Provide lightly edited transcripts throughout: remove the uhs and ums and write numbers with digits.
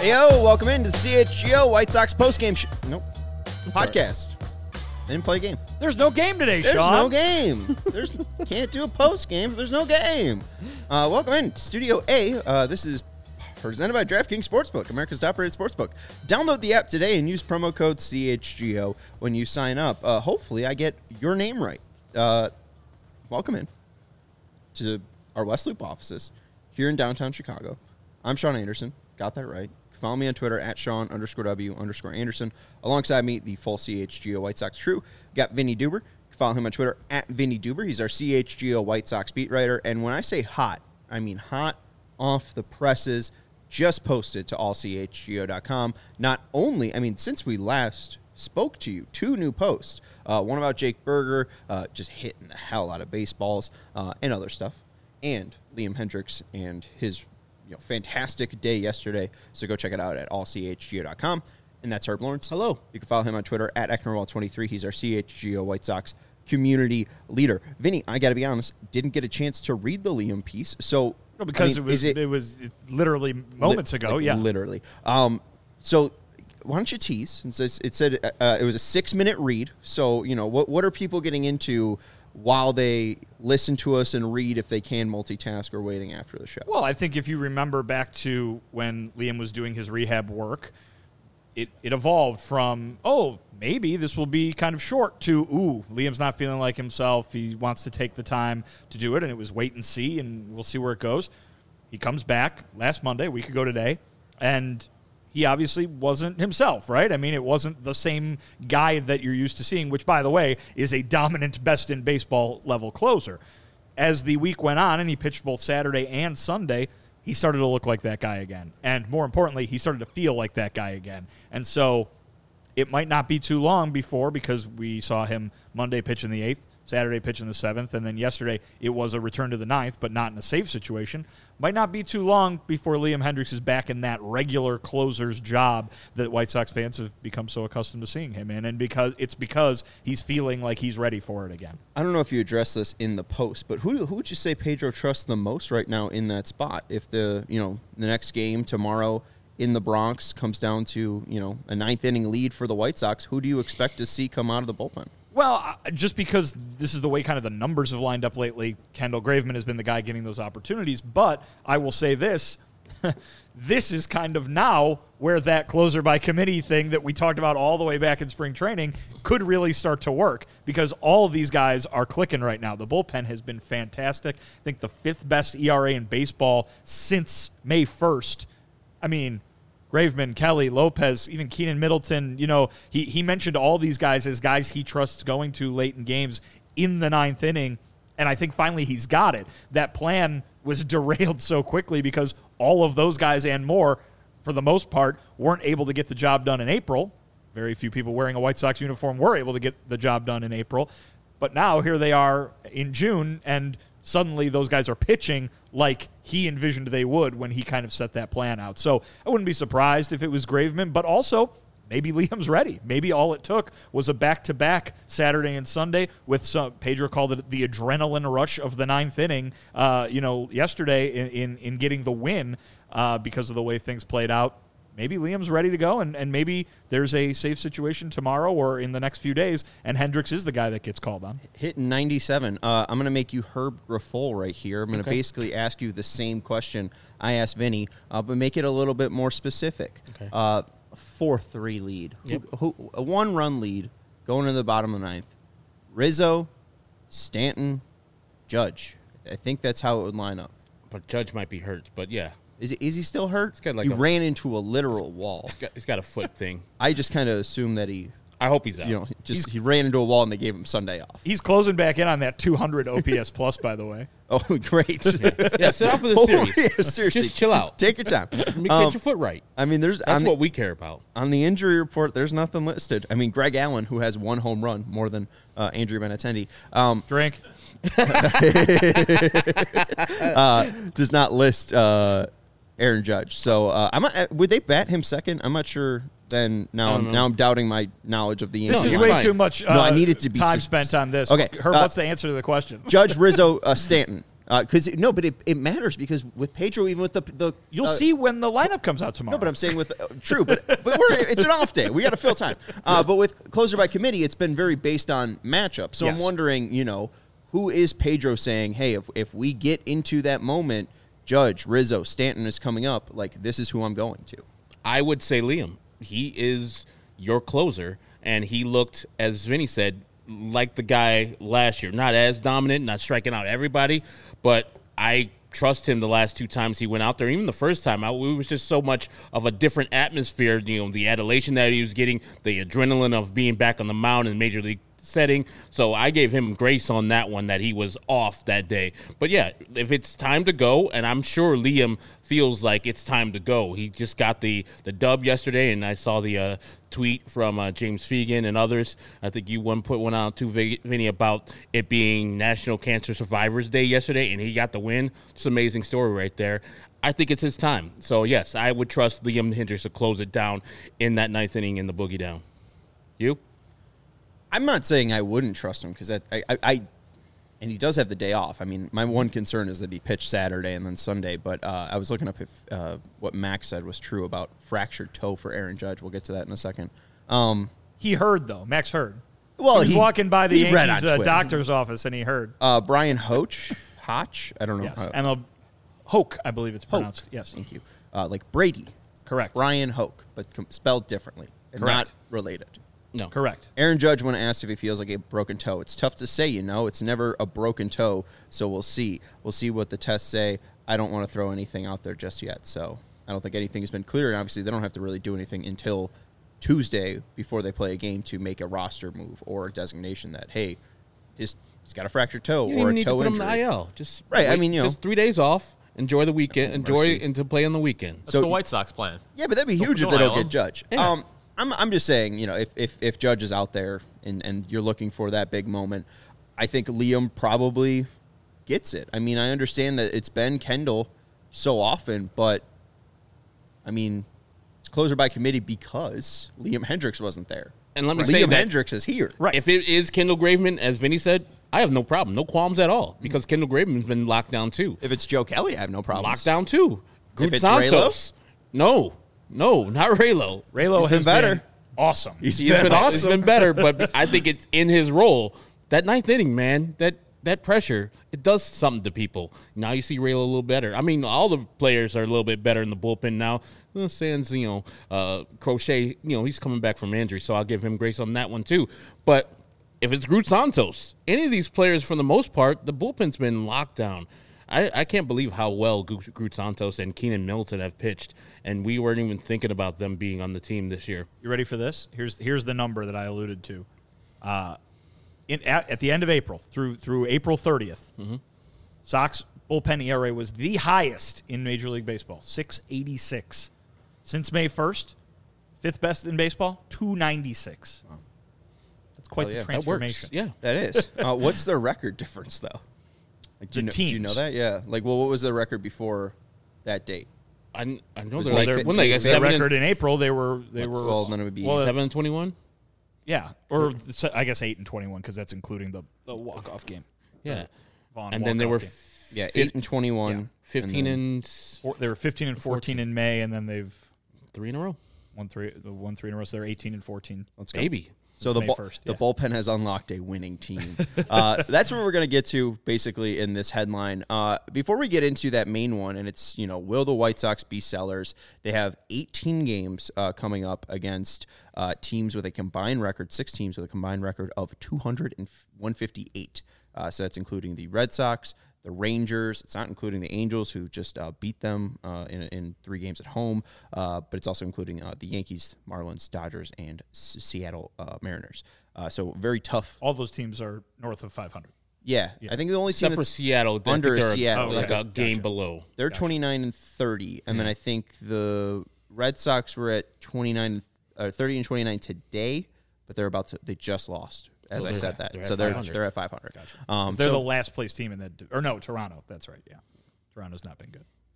Yo, welcome into the CHGO White Sox postgame podcast. I didn't play a game. There's no game today, There's Sean. no game. Can't do a postgame if there's no game. Welcome in Studio A. This is presented by DraftKings Sportsbook, America's top-rated sportsbook. Download the app today and use promo code CHGO when you sign up. Hopefully, I get your name right. Welcome in to our West Loop offices here in downtown Chicago. I'm Sean Anderson. Got that right. Follow me on Twitter at Sean_W_Anderson. Alongside me, the full CHGO White Sox crew. Got Vinny Duber. Follow him on Twitter at Vinny Duber. He's our CHGO White Sox beat writer. And when I say hot, I mean hot off the presses. Just posted to allchgo.com. Not only, since we last spoke to you, 2 new posts. One about Jake Berger, just hitting the hell out of baseballs and other stuff. And Liam Hendriks and his fantastic day yesterday. So go check it out at allchgo.com. And that's Herb Lawrence. Hello. You can follow him on Twitter at Ecknerwall23. He's our CHGO White Sox community leader. Vinny, I got to be honest, didn't get a chance to read the Liam piece. So because it was literally moments ago. Yeah, literally. So why don't you tease? Since it said it was a 6-minute read. So what are people getting into while they listen to us and read, if they can multitask, or waiting after the show? Well, I think if you remember back to when Liam was doing his rehab work, it evolved from, maybe this will be kind of short, to, Liam's not feeling like himself. He wants to take the time to do it, and it was wait and see, and we'll see where it goes. He comes back last Monday, a week ago today, and he obviously wasn't himself, right? It wasn't the same guy that you're used to seeing, which, by the way, is a dominant best-in-baseball level closer. As the week went on, and he pitched both Saturday and Sunday, he started to look like that guy again. And more importantly, he started to feel like that guy again. And so it might not be too long before, because we saw him Monday pitch in the 8th, Saturday pitch in the 7th, and then yesterday it was a return to the 9th, but not in a save situation. Might not be too long before Liam Hendriks is back in that regular closer's job that White Sox fans have become so accustomed to seeing him in, and because he's feeling like he's ready for it again. I don't know if you addressed this in the post, but who would you say Pedro trusts the most right now in that spot? If the next game tomorrow in the Bronx comes down to a 9th inning lead for the White Sox, who do you expect to see come out of the bullpen? Well, just because this is the way kind of the numbers have lined up lately, Kendall Graveman has been the guy getting those opportunities. But I will say this, this is kind of now where that closer by committee thing that we talked about all the way back in spring training could really start to work, because all of these guys are clicking right now. The bullpen has been fantastic. I think the 5th best ERA in baseball since May 1st. Graveman, Kelly, Lopez, even Keenan Middleton, he mentioned all these guys as guys he trusts going to late in games in the 9th inning, and I think finally he's got it. That plan was derailed so quickly because all of those guys and more, for the most part, weren't able to get the job done in April. Very few people wearing a White Sox uniform were able to get the job done in April. But now here they are in June, and suddenly those guys are pitching like he envisioned they would when he kind of set that plan out. So I wouldn't be surprised if it was Graveman, but also maybe Liam's ready. Maybe all it took was a back-to-back Saturday and Sunday with some, Pedro called it the adrenaline rush of the 9th inning, yesterday in getting the win because of the way things played out. Maybe Liam's ready to go, and maybe there's a safe situation tomorrow or in the next few days, and Hendriks is the guy that gets called on. Hitting 97. I'm going to make you Herb Grafol right here. I'm going to basically ask you the same question I asked Vinny, but make it a little bit more specific. Okay. 4-3 lead. Yep. A 1-run lead going to the bottom of the 9th. Rizzo, Stanton, Judge. I think that's how it would line up. But Judge might be hurt, but yeah. Is he still hurt? He ran into a literal wall. He's got a foot thing. I just kind of assume that I hope he's out. He ran into a wall and they gave him Sunday off. He's closing back in on that 200 OPS plus, by the way. Oh, great. Yeah, sit out for the series. Yeah, seriously. Just chill out. Take your time. Get your foot right. That's what we care about. On the injury report, there's nothing listed. Greg Allen, who has 1 home run, more than Andrew Benintendi. Drink. Does not list Aaron Judge. So would they bat him second? I'm not sure. Then now I'm doubting my knowledge of the This Yankees. is way too much I need it to be time spent on this. Okay. Herb, what's the answer to the question? Judge, Rizzo, Stanton. Because but it matters because with Pedro, even with the You'll see when the lineup comes out tomorrow. No, but I'm saying with true, but it's an off day. We got to fill time. But with closer by committee, it's been very based on matchup. So I'm wondering, who is Pedro saying, hey, if we get into that moment, Judge, Rizzo, Stanton is coming up, like this is who I'm going to. I would say Liam. He is your closer, and he looked, as Vinny said, like the guy last year. Not as dominant, not striking out everybody, but I trust him the last 2 times he went out there. Even the first time out, it was just so much of a different atmosphere. The adulation that he was getting, the adrenaline of being back on the mound in Major League setting. So I gave him grace on that one that he was off that day. But yeah, if it's time to go, and I'm sure Liam feels like it's time to go. He just got the dub yesterday, and I saw the tweet from James Fegan and others. I think you put one out too, Vinny, about it being National Cancer Survivors Day yesterday, and he got the win. It's an amazing story right there. I think it's his time. So yes, I would trust Liam Hendriks to close it down in that 9th inning in the boogie down. You? I'm not saying I wouldn't trust him because I and he does have the day off. I mean, my one concern is that he pitched Saturday and then Sunday, but I was looking up if what Max said was true about fractured toe for Aaron Judge. We'll get to that in a second. He heard, though. Max heard. Well, he was walking by the Yankees doctor's office, and he heard. Brian Hotch? I don't know. Yes, Hoke, I believe it's pronounced. Hoke. Yes. Thank you. Like Brady. Correct. Brian Hoke, but spelled differently. And not related. No. Correct. Aaron Judge, when asked if he feels like a broken toe, it's tough to say, It's never a broken toe, so we'll see. We'll see what the tests say. I don't want to throw anything out there just yet, so I don't think anything has been clear, and obviously they don't have to really do anything until Tuesday before they play a game to make a roster move or a designation that, hey, he's got a fractured toe or a toe injury. Him to IL. Just right. Wait, just 3 days off. Enjoy the weekend. Enjoy and to play on the weekend. That's the White Sox plan. Yeah, but that'd be huge if they don't get Judge. Yeah. I'm just saying, if Judge is out there and you're looking for that big moment, I think Liam probably gets it. I mean, I understand that it's been Kendall so often, but I mean, it's closer by committee because Liam Hendriks wasn't there. And let me say Liam that Hendriks is here. Right. If it is Kendall Graveman, as Vinny said, I have no problem, no qualms at all, because Kendall Graveman's been locked down too. If it's Joe Kelly, I have no problem. Locked down too. If it's Santos, no, not Raylo. Raylo has been better. Awesome. He's been awesome. He's been better, but I think it's in his role. That 9th inning, man, that pressure, it does something to people. Now you see Raylo a little better. I mean, all the players are a little bit better in the bullpen now. Sans, Crochet, he's coming back from injury, so I'll give him grace on that one too. But if it's Groot Santos, any of these players, for the most part, the bullpen's been locked down. I can't believe how well Groot Santos and Keenan Milton have pitched, and we weren't even thinking about them being on the team this year. You ready for this? Here's the number that I alluded to. At the end of April, through April 30th, Sox bullpen ERA was the highest in Major League Baseball, 6.86. Since May 1st, 5th best in baseball, 2.96. Wow. That's quite the transformation. That works. Yeah, that is. What's their record difference, though? Like, do you know that? Yeah. Like, well, what was their record before that date? I know they're when they got their record in April. They were. Well, then it would be 7-21. Yeah, or I guess 8-21 because that's including the walk-off game. Yeah, Vaughn and then they were 8-21, 15 and they were 15 and 14 in May, and then they've 3 in a row. Won three in a row. So they're 18 and 14. Let's go. Baby. So the bullpen has unlocked a winning team. That's what we're going to get to basically in this headline. Before we get into that main one, and it's, will the White Sox be sellers? They have 18 games coming up against teams with a combined record, 6 teams with a combined record of 158. So that's including the Red Sox, the Rangers. It's not including the Angels, who just beat them in 3 games at home, but it's also including the Yankees, Marlins, Dodgers, and Seattle Mariners. So very tough. All those teams are north of 500. Yeah. I think the only team except for Seattle, under Seattle, like a game below. They're 29 and 30, and then I think the Red Sox were at 30 and 29 today, but they just lost. As I said that. They're at 500. Gotcha. They're the last place team in that. Or no, Toronto. That's right, yeah. Toronto's not been good.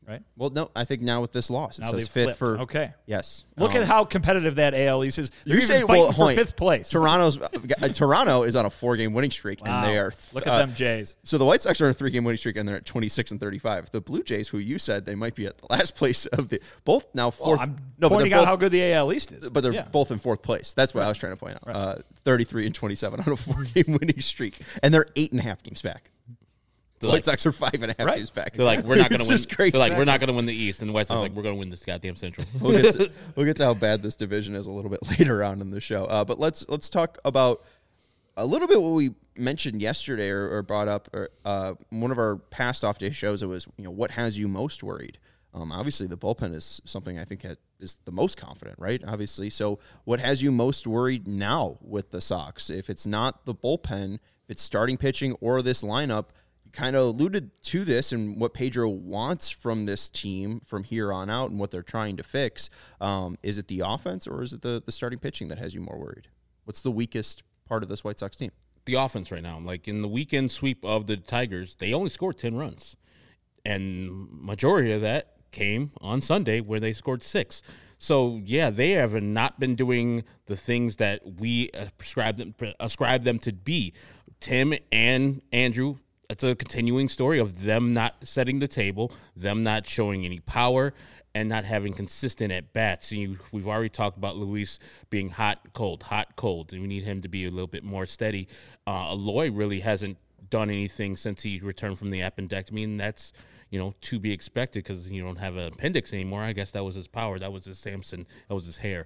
right? Well, no, I think now with this loss, it Now says they've fifth flipped. for. Okay. Yes. Look at how competitive that AL East is. They're You even say fighting for Hoyt, fifth place. Toronto is on a 4-game winning streak, Wow. and they are. Look at them Jays. So the White Sox are on a 3-game winning streak, and they're at 26 and 35. The Blue Jays, who you said they might be at the last place of the both now fourth. I'm no, but pointing they're out both, how good the AL East is. but they're Yeah. both in fourth place. That's what I was trying to point out. 33 and 27 on a 4-game winning streak, and they're 8.5 games back. The White Sox are 5.5 games back. They're like, we're not going to win. It's just crazy. They're like, we're not going to win the East, and the White Sox like, we're going to win this goddamn Central. We'll get to how bad this division is a little bit later on in the show. But let's talk about a little bit what we mentioned yesterday or brought up. One of our past off day shows. It was what has you most worried. Obviously, the bullpen is something I think is the most confident, right? Obviously, so what has you most worried now with the Sox? If it's not the bullpen, if it's starting pitching or this lineup. Kind of alluded to this and what Pedro wants from this team from here on out and what they're trying to fix. Is it the offense or is it the starting pitching that has you more worried? What's the weakest part of this White Sox team? The offense right now. Like in the weekend sweep of the Tigers, they only scored 10 runs. And majority of that came on Sunday where they scored 6. So, yeah, they have not been doing the things that we ascribe them to be. Tim and Andrew, it's a continuing story of them not setting the table, them not showing any power, and not having consistent at-bats. We've already talked about Luis being hot, cold, and we need him to be a little bit more steady. Eloy really hasn't done anything since he returned from the appendectomy, and that's to be expected because you don't have an appendix anymore. I guess that was his power. That was his Samson. That was his hair.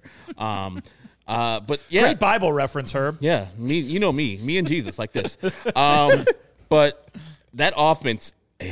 But yeah, Great Bible reference, Herb. yeah, me and Jesus like this. But that offense,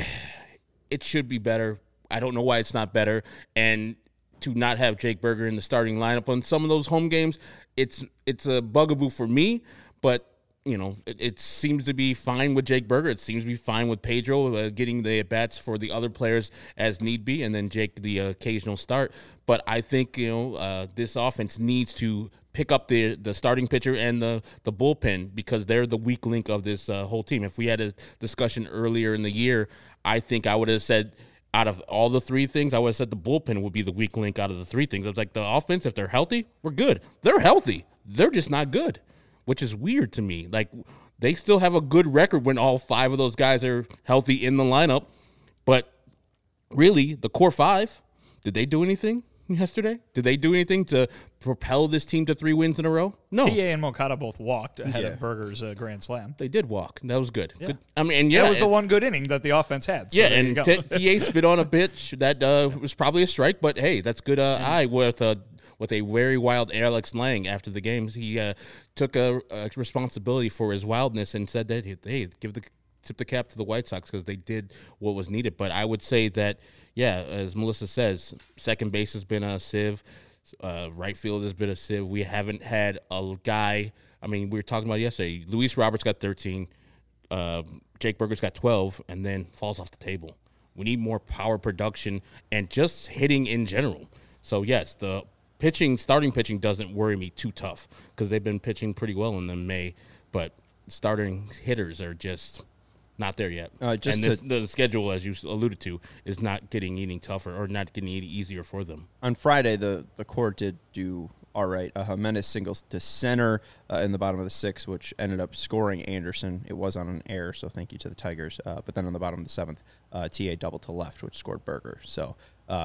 it should be better. I don't know why it's not better. And to not have Jake Burger in the starting lineup on some of those home games, it's a bugaboo for me. But it seems to be fine with Jake Burger. It seems to be fine with Pedro getting the at-bats for the other players as need be, and then Jake the occasional start. But I think this offense needs to pick up the starting pitcher and the bullpen because they're the weak link of this whole team. If we had a discussion earlier in the year, I think I would have said out of all the three things, I would have said the bullpen would be the weak link out of the three things. I was like, the offense, if they're healthy, we're good. They're healthy. They're just not good, which is weird to me. Like, they still have a good record when all 5 of those guys are healthy in the lineup. But really, the core 5, did they do anything yesterday? Did they do anything to propel this team to 3 wins in a row? No. TA and Moncada both walked ahead of Burger's grand slam. They did walk. That was good. Yeah. Good. I mean, and yeah, that was the one good inning that the offense had. So yeah, there you and go. TA spit on a pitch that was probably a strike, but hey, that's good eye with a very wild Alex Lang after the game. He took a responsibility for his wildness and said that, hey, tip the cap to the White Sox because they did what was needed. But I would say that, yeah, as Melissa says, second base has been a sieve. Right field has been a sieve. We haven't had a guy. I mean, we were talking about yesterday. Luis Roberts got 13. Jake Burger's got 12 and then falls off the table. We need more power production and just hitting in general. So, yes, the starting pitching doesn't worry me too tough because they've been pitching pretty well in the May, but starting hitters are just not there yet. The schedule, as you alluded to, is not getting any tougher or not getting any easier for them. On Friday, the core did do all right. Jimenez singles to center in the bottom of the 6th, which ended up scoring Anderson. It was on an error, so thank you to the Tigers. But then on the bottom of the 7th, TA doubled to left, which scored Burger. So,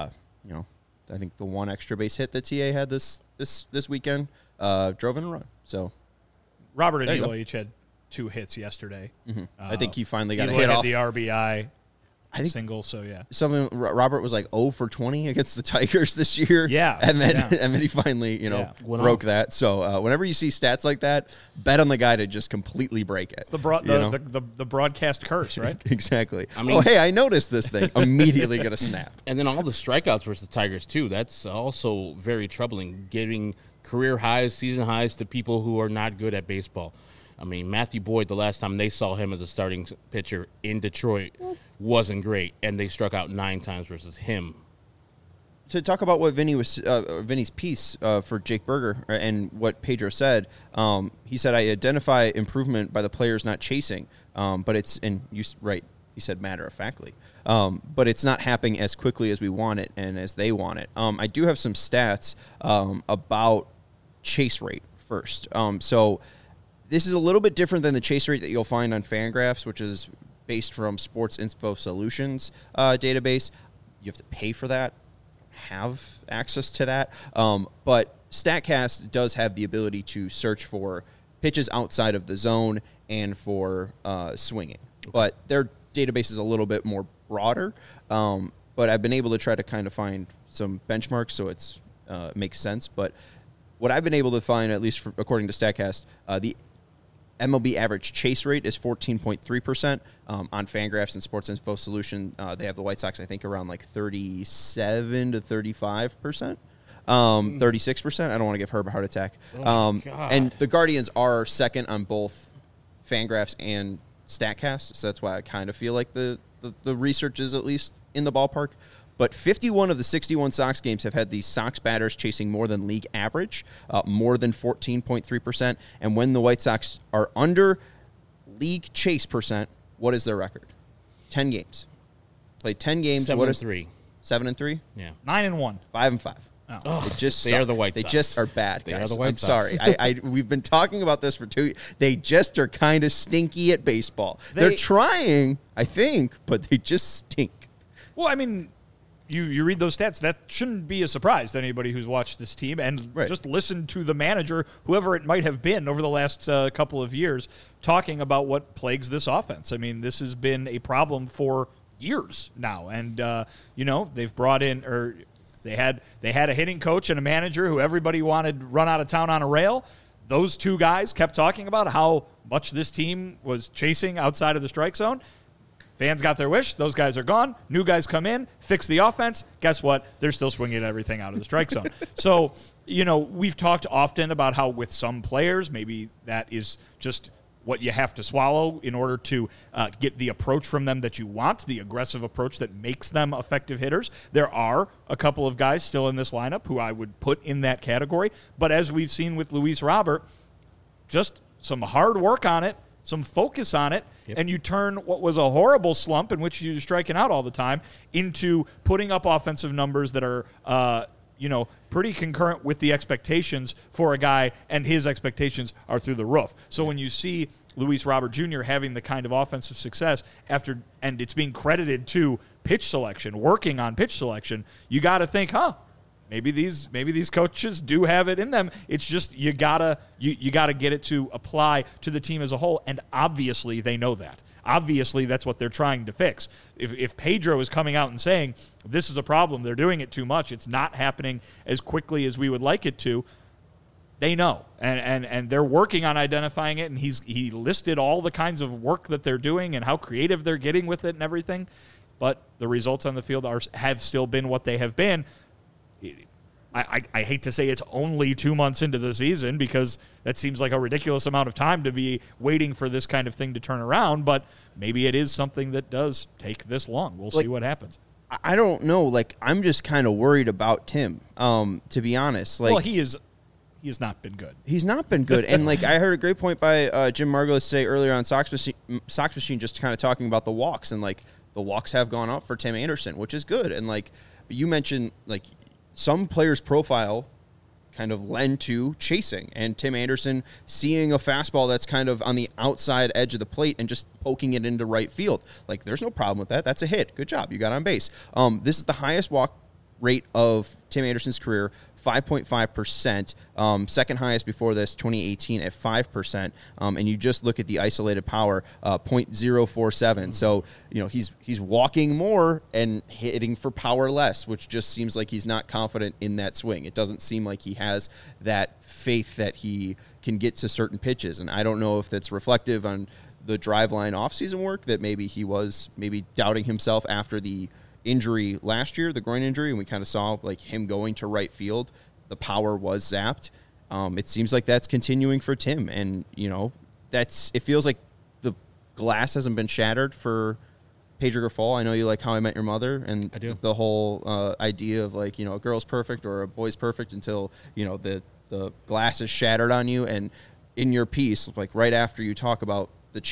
I think the one extra base hit that TA had this weekend drove in a run. So Robert and Eloy each had 2 hits yesterday. Mm-hmm. I think he finally got Eloy a hit had off the RBI think single. So yeah, Robert was like 0 for 20 against the Tigers this year. Yeah, and then he finally broke that. So whenever you see stats like that, bet on the guy to just completely break it. It's the broadcast curse, right? Exactly. I mean, hey, I noticed this thing. Immediately gonna snap. And then all the strikeouts versus the Tigers too. That's also very troubling. Giving career highs, season highs to people who are not good at baseball. I mean, Matthew Boyd, the last time they saw him as a starting pitcher in Detroit, wasn't great, and they struck out 9 times versus him. To talk about what Vinny's piece for Jake Burger and what Pedro said, he said, I identify improvement by the players not chasing, but it's, and you right, he said matter-of-factly. But it's not happening as quickly as we want it and as they want it. I do have some stats about chase rate first. So this is a little bit different than the chase rate that you'll find on Fangraphs, which is based from Sports Info Solutions database. You have to pay for that, have access to that. But StatCast does have the ability to search for pitches outside of the zone and for swinging. Okay. But their database is a little bit more broader. But I've been able to try to kind of find some benchmarks so it's makes sense. But what I've been able to find, at least according to StatCast, the MLB average chase rate is 14.3%. On Fangraphs and Sports Info Solution, they have the White Sox, I think, around like 37 to 35%. 36%. I don't want to give Herb a heart attack. And the Guardians are second on both Fangraphs and StatCast, so that's why I kind of feel like the research is at least in the ballpark. But 51 of the 61 Sox games have had the Sox batters chasing more than league average, more than 14.3%. And when the White Sox are under league chase percent, what is their record? 10 games. Played 10 games. 7-3. 7-3? Yeah. 9-1. 5-5. Oh. They just They are the White They Sox. just are bad, They guys. are the White I'm Sox. sorry. We've been talking about this for 2 years. They just are kind of stinky at baseball. They're trying, I think, but they just stink. Well, I mean, you read those stats, that shouldn't be a surprise to anybody who's watched this team and just listened to the manager, whoever it might have been over the last couple of years, talking about what plagues this offense. I mean, this has been a problem for years now. And, they've brought in, or they had a hitting coach and a manager who everybody wanted run out of town on a rail. Those two guys kept talking about how much this team was chasing outside of the strike zone. Fans got their wish. Those guys are gone. New guys come in, fix the offense. Guess what? They're still swinging everything out of the strike zone. So, we've talked often about how with some players, maybe that is just what you have to swallow in order to get the approach from them that you want, the aggressive approach that makes them effective hitters. There are a couple of guys still in this lineup who I would put in that category. But as we've seen with Luis Robert, just some hard work on it, some focus on it, and you turn what was a horrible slump in which you're striking out all the time into putting up offensive numbers that are, pretty concurrent with the expectations for a guy, and his expectations are through the roof. So when you see Luis Robert Jr. having the kind of offensive success and it's being credited to pitch selection, working on pitch selection, you got to think, maybe these coaches do have it in them. It's just you gotta get it to apply to the team as a whole, and obviously they know that. Obviously that's what they're trying to fix. If Pedro is coming out and saying this is a problem, they're doing it too much, it's not happening as quickly as we would like it to, they know, and they're working on identifying it. And he listed all the kinds of work that they're doing and how creative they're getting with it and everything. But the results on the field have still been what they have been. I hate to say it's only 2 months into the season, because that seems like a ridiculous amount of time to be waiting for this kind of thing to turn around, but maybe it is something that does take this long. We'll see what happens. I don't know. I'm just kind of worried about Tim, to be honest. Well, he has not been good. He's not been good. And I heard a great point by Jim Margolis today earlier on Sox Machine, just kind of talking about the walks, and the walks have gone up for Tim Anderson, which is good. And you mentioned, some players' profile kind of lend to chasing, and Tim Anderson seeing a fastball that's kind of on the outside edge of the plate and just poking it into right field. There's no problem with that. That's a hit. Good job. You got on base. This is the highest walk rate of Tim Anderson's career, 5.5%. Second highest before this, 2018 at 5%. And you just look at the isolated power, 0.047. So, he's walking more and hitting for power less, which just seems like he's not confident in that swing. It doesn't seem like he has that faith that he can get to certain pitches. And I don't know if that's reflective on the Driveline offseason work, that maybe he was doubting himself after the injury last year, the groin injury, and we kind of saw him going to right field. The power was zapped. It seems like that's continuing for Tim, and it feels like the glass hasn't been shattered for Pedro Grifol. I know you like How I Met Your Mother, and the whole idea of a girl's perfect or a boy's perfect until the glass is shattered on you. And in your piece, right after you talk about the chase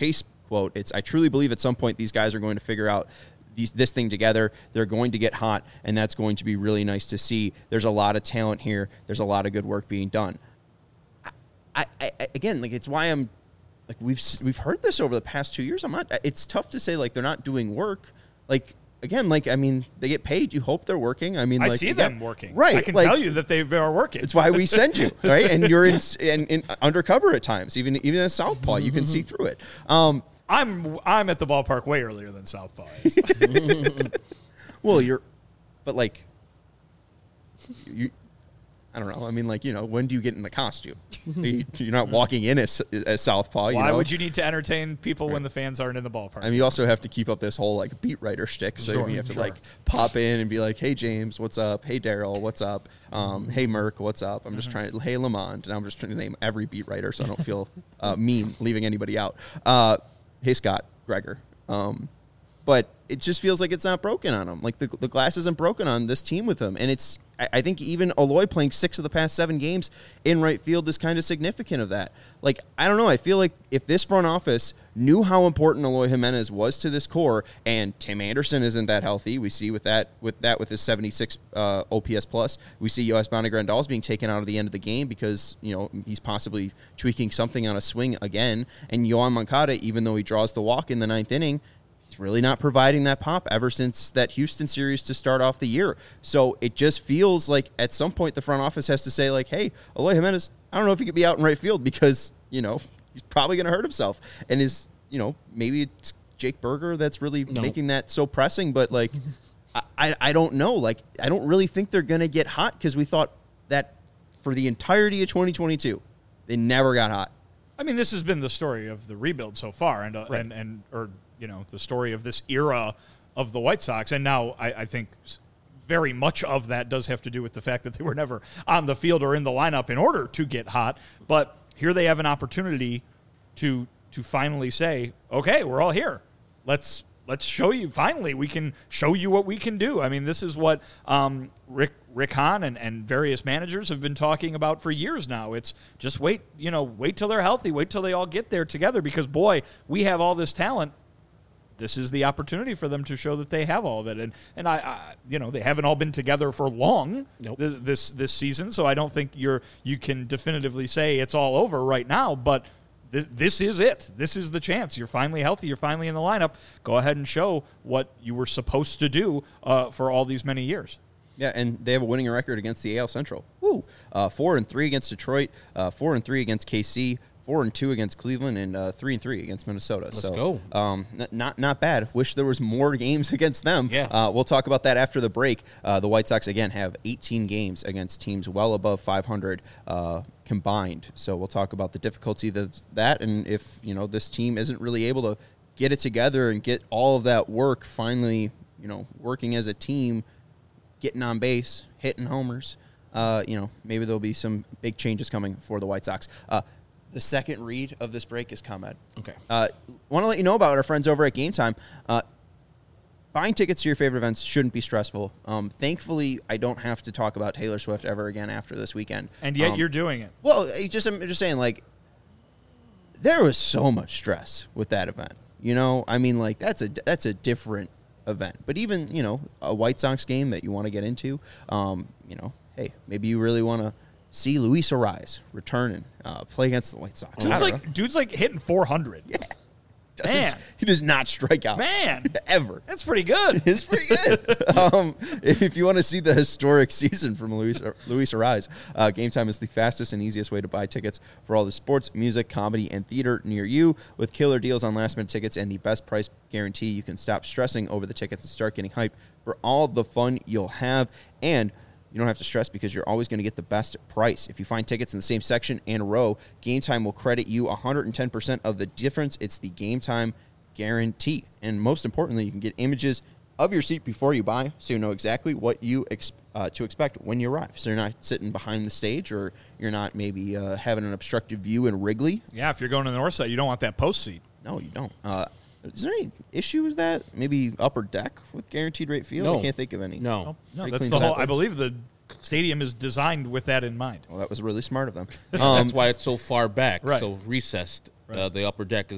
quote. I truly believe at some point these guys are going to figure out this thing together. They're going to get hot, and that's going to be really nice to see. There's a lot of talent here. There's a lot of good work being done. I again, like, it's why I'm like, we've heard this over the past 2 years. It's tough to say like they're not doing work. Like, again, like, I mean, they get paid. You hope they're working. I mean, I like, see them working. Right. I can like, tell you that they are working. It's why we send you, right? And you're in undercover at times, even as Southpaw, you can see through it. I'm at the ballpark way earlier than Southpaw is. Well, but like, I don't know. I mean, like, when do you get in the costume? You're not walking in as Southpaw. Why would you need to entertain people when the fans aren't in the ballpark? I mean, you also have to keep up this whole like beat writer shtick. So you have to like pop in and be like, "Hey James, what's up? Hey Daryl, what's up? Hey Merck, what's up?" I'm just trying to. Hey Lamond, and I'm just trying to name every beat writer so I don't feel mean leaving anybody out. Hey Scott, Gregor. But it just feels like it's not broken on him. Like the glass isn't broken on this team with him. And I think even Eloy playing 6 of the past 7 games in right field is kind of significant of that. Like, I don't know. I feel like if this front office knew how important Eloy Jimenez was to this core, and Tim Anderson isn't that healthy, we see with his 76 OPS plus, we see Yasmani Grandal's being taken out of the end of the game because, he's possibly tweaking something on a swing again. And Yoan Moncada, even though he draws the walk in the 9th inning, he's really not providing that pop ever since that Houston series to start off the year. So it just feels like at some point the front office has to say, like, hey, Eloy Jimenez, I don't know if he could be out in right field because, he's probably going to hurt himself. And maybe it's Jake Berger that's really making that so pressing. But, like, I don't know. Like, I don't really think they're going to get hot because we thought that for the entirety of 2022, they never got hot. I mean, this has been the story of the rebuild so far, and the story of this era of the White Sox. And now I think very much of that does have to do with the fact that they were never on the field or in the lineup in order to get hot. But here they have an opportunity to finally say, okay, we're all here. Let's show you. Finally, we can show you what we can do. I mean, this is what Rick Hahn and various managers have been talking about for years now. It's just wait till they're healthy, wait till they all get there together because, boy, we have all this talent. This is the opportunity for them to show that they have all of it. And I they haven't all been together for long this season, so I don't think you can definitively say it's all over right now, but this is it. This is the chance. You're finally healthy. You're finally in the lineup. Go ahead and show what you were supposed to do for all these many years. Yeah, and they have a winning record against the AL Central. Woo! 4-3 against Detroit, 4-3 against KC, 4-2 against Cleveland, and 3-3 against Minnesota. Let's go. Not bad. Wish there was more games against them. Yeah. We'll talk about that after the break. The White Sox, again, have 18 games against teams well above 500 combined. So we'll talk about the difficulty of that and if, this team isn't really able to get it together and get all of that work finally, working as a team, getting on base, hitting homers. Maybe there'll be some big changes coming for the White Sox. The second read of this break is ComEd. Okay. Want to let you know about our friends over at Game Time. Buying tickets to your favorite events shouldn't be stressful. Thankfully, I don't have to talk about Taylor Swift ever again after this weekend. And yet you're doing it. Well, I'm just saying, like, there was so much stress with that event. I mean, like, that's a different event. But even, a White Sox game that you want to get into, hey, maybe you really want to see Luis Arraez return and play against the White Sox. Dude's like hitting 400. Yeah. Man. He does not strike out. Man. Ever. That's pretty good. It's pretty good. If you want to see the historic season from Luis Arraez, Game Time is the fastest and easiest way to buy tickets for all the sports, music, comedy, and theater near you. With killer deals on last-minute tickets and the best price guarantee, you can stop stressing over the tickets and start getting hyped for all the fun you'll have. And you don't have to stress because you're always going to get the best price. If you find tickets in the same section and row, Game Time will credit you 110% of the difference. It's the Game Time guarantee. And most importantly, you can get images of your seat before you buy so you know exactly what you to expect when you arrive. So you're not sitting behind the stage or you're not maybe having an obstructive view in Wrigley. Yeah, if you're going to the north side, you don't want that post seat. No, you don't. Is there any issue with that? Maybe upper deck with guaranteed rate field? No. I can't think of any. No, that's the whole. I believe the stadium is designed with that in mind. Well, that was really smart of them. that's why it's so far back, Right. so recessed. Right. The upper deck is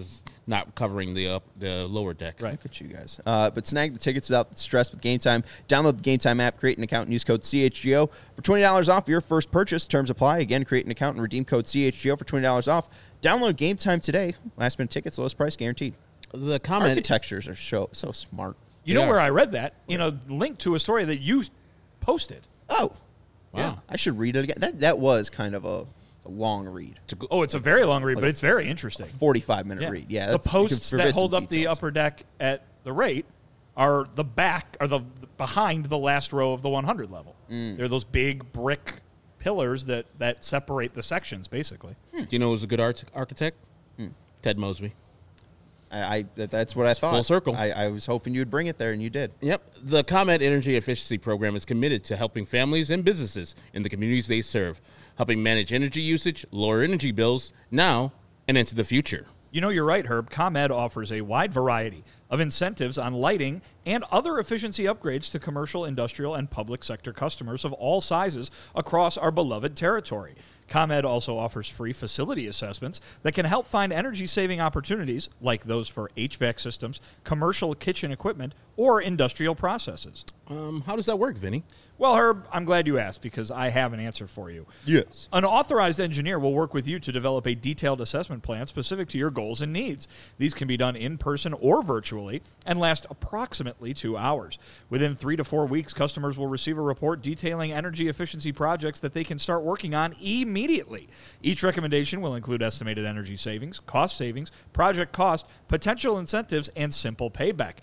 not covering the lower deck. Right. Look at you guys. But snag the tickets without the stress with Game Time. Download the Game Time app, create an account, and use code CHGO for $20 off your first purchase. Terms apply. Again, create an account and redeem code CHGO for $20 off. Download Game Time today. Last minute tickets, lowest price guaranteed. The comment Architectures are so smart. You know Yeah. where I read that? In a link to a story that you posted. Oh, Wow. yeah. I should read it again. That was kind of a long read. Oh, it's a very long read, but it's very interesting. 45-minute read. Yeah. The that's- you can posts forbid that hold some up the details. upper deck at the rate are the behind the last row of the 100 level. They're those big brick pillars that separate the sections, basically. Do you know who's a good architect? Ted Mosby. That's what I thought. full circle. I was hoping you'd bring it there, and you did. Yep. The ComEd Energy Efficiency Program is committed to helping families and businesses in the communities they serve, helping manage energy usage, lower energy bills now and into the future. You know, you're right, Herb. ComEd offers a wide variety of incentives on lighting and other efficiency upgrades to commercial, industrial, and public sector customers of all sizes across our beloved territory. ComEd also offers free facility assessments that can help find energy-saving opportunities like those for HVAC systems, commercial kitchen equipment, or industrial processes. How does that work, Vinny? Well, Herb, I'm glad you asked because I have an answer for you. Yes. An authorized engineer will work with you to develop a detailed assessment plan specific to your goals and needs. These can be done in person or virtually and last approximately 2 hours. Within 3 to 4 weeks, customers will receive a report detailing energy efficiency projects that they can start working on immediately. Each recommendation will include estimated energy savings, project cost, potential incentives, and simple payback.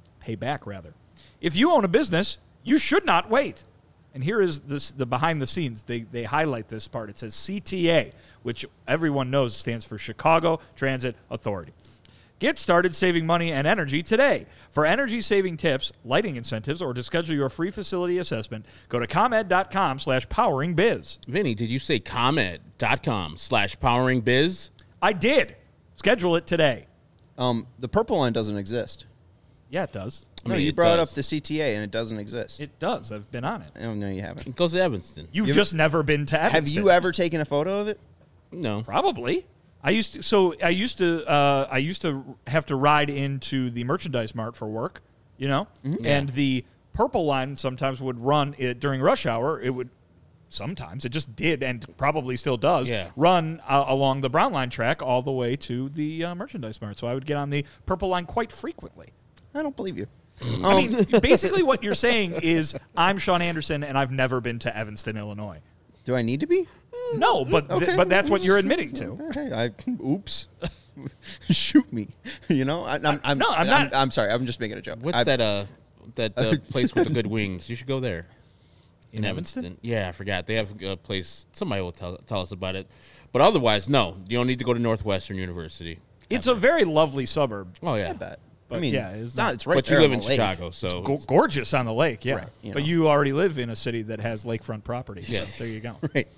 If you own a business, you should not wait. And here is the behind the scenes. They highlight this part. It says CTA, which everyone knows stands for Chicago Transit Authority. Get started saving money and energy today. For energy-saving tips, lighting incentives, or to schedule your free facility assessment, go to ComEd.com/poweringbiz. Vinny, did you say ComEd.com/poweringbiz? I did. Schedule it today. The purple line doesn't exist. Yeah, it does. No, mean, you it brought does. up the CTA, and it doesn't exist. It does. I've been on it. Oh, no, you haven't. It goes to Evanston. You've just never been to Evanston. Have you ever taken a photo of it? No. Probably. I used to have to ride into the merchandise mart for work, and the purple line sometimes would run during rush hour. It would sometimes, it just did and probably still does, run along the brown line track all the way to the merchandise mart. So I would get on the purple line quite frequently. I don't believe you. I mean, basically what you're saying is I'm Sean Anderson and I've never been to Evanston, Illinois. Do I need to be? No, but Okay. but that's what you're admitting to. Okay, oops. Shoot me. I'm not. I'm sorry. I'm just making a joke. What's that place with the good wings? You should go there. In Evanston? Yeah, I forgot. They have a place. Somebody will tell us about it. But otherwise, no. You don't need to go to Northwestern University. It's a very lovely suburb. Oh, yeah. I bet. But I mean, yeah, it's not. It's right But you there live on in the lake. Chicago, so Gorgeous on the lake, yeah. Right, But you already live in a city that has lakefront property. Yes. So there you go. Right.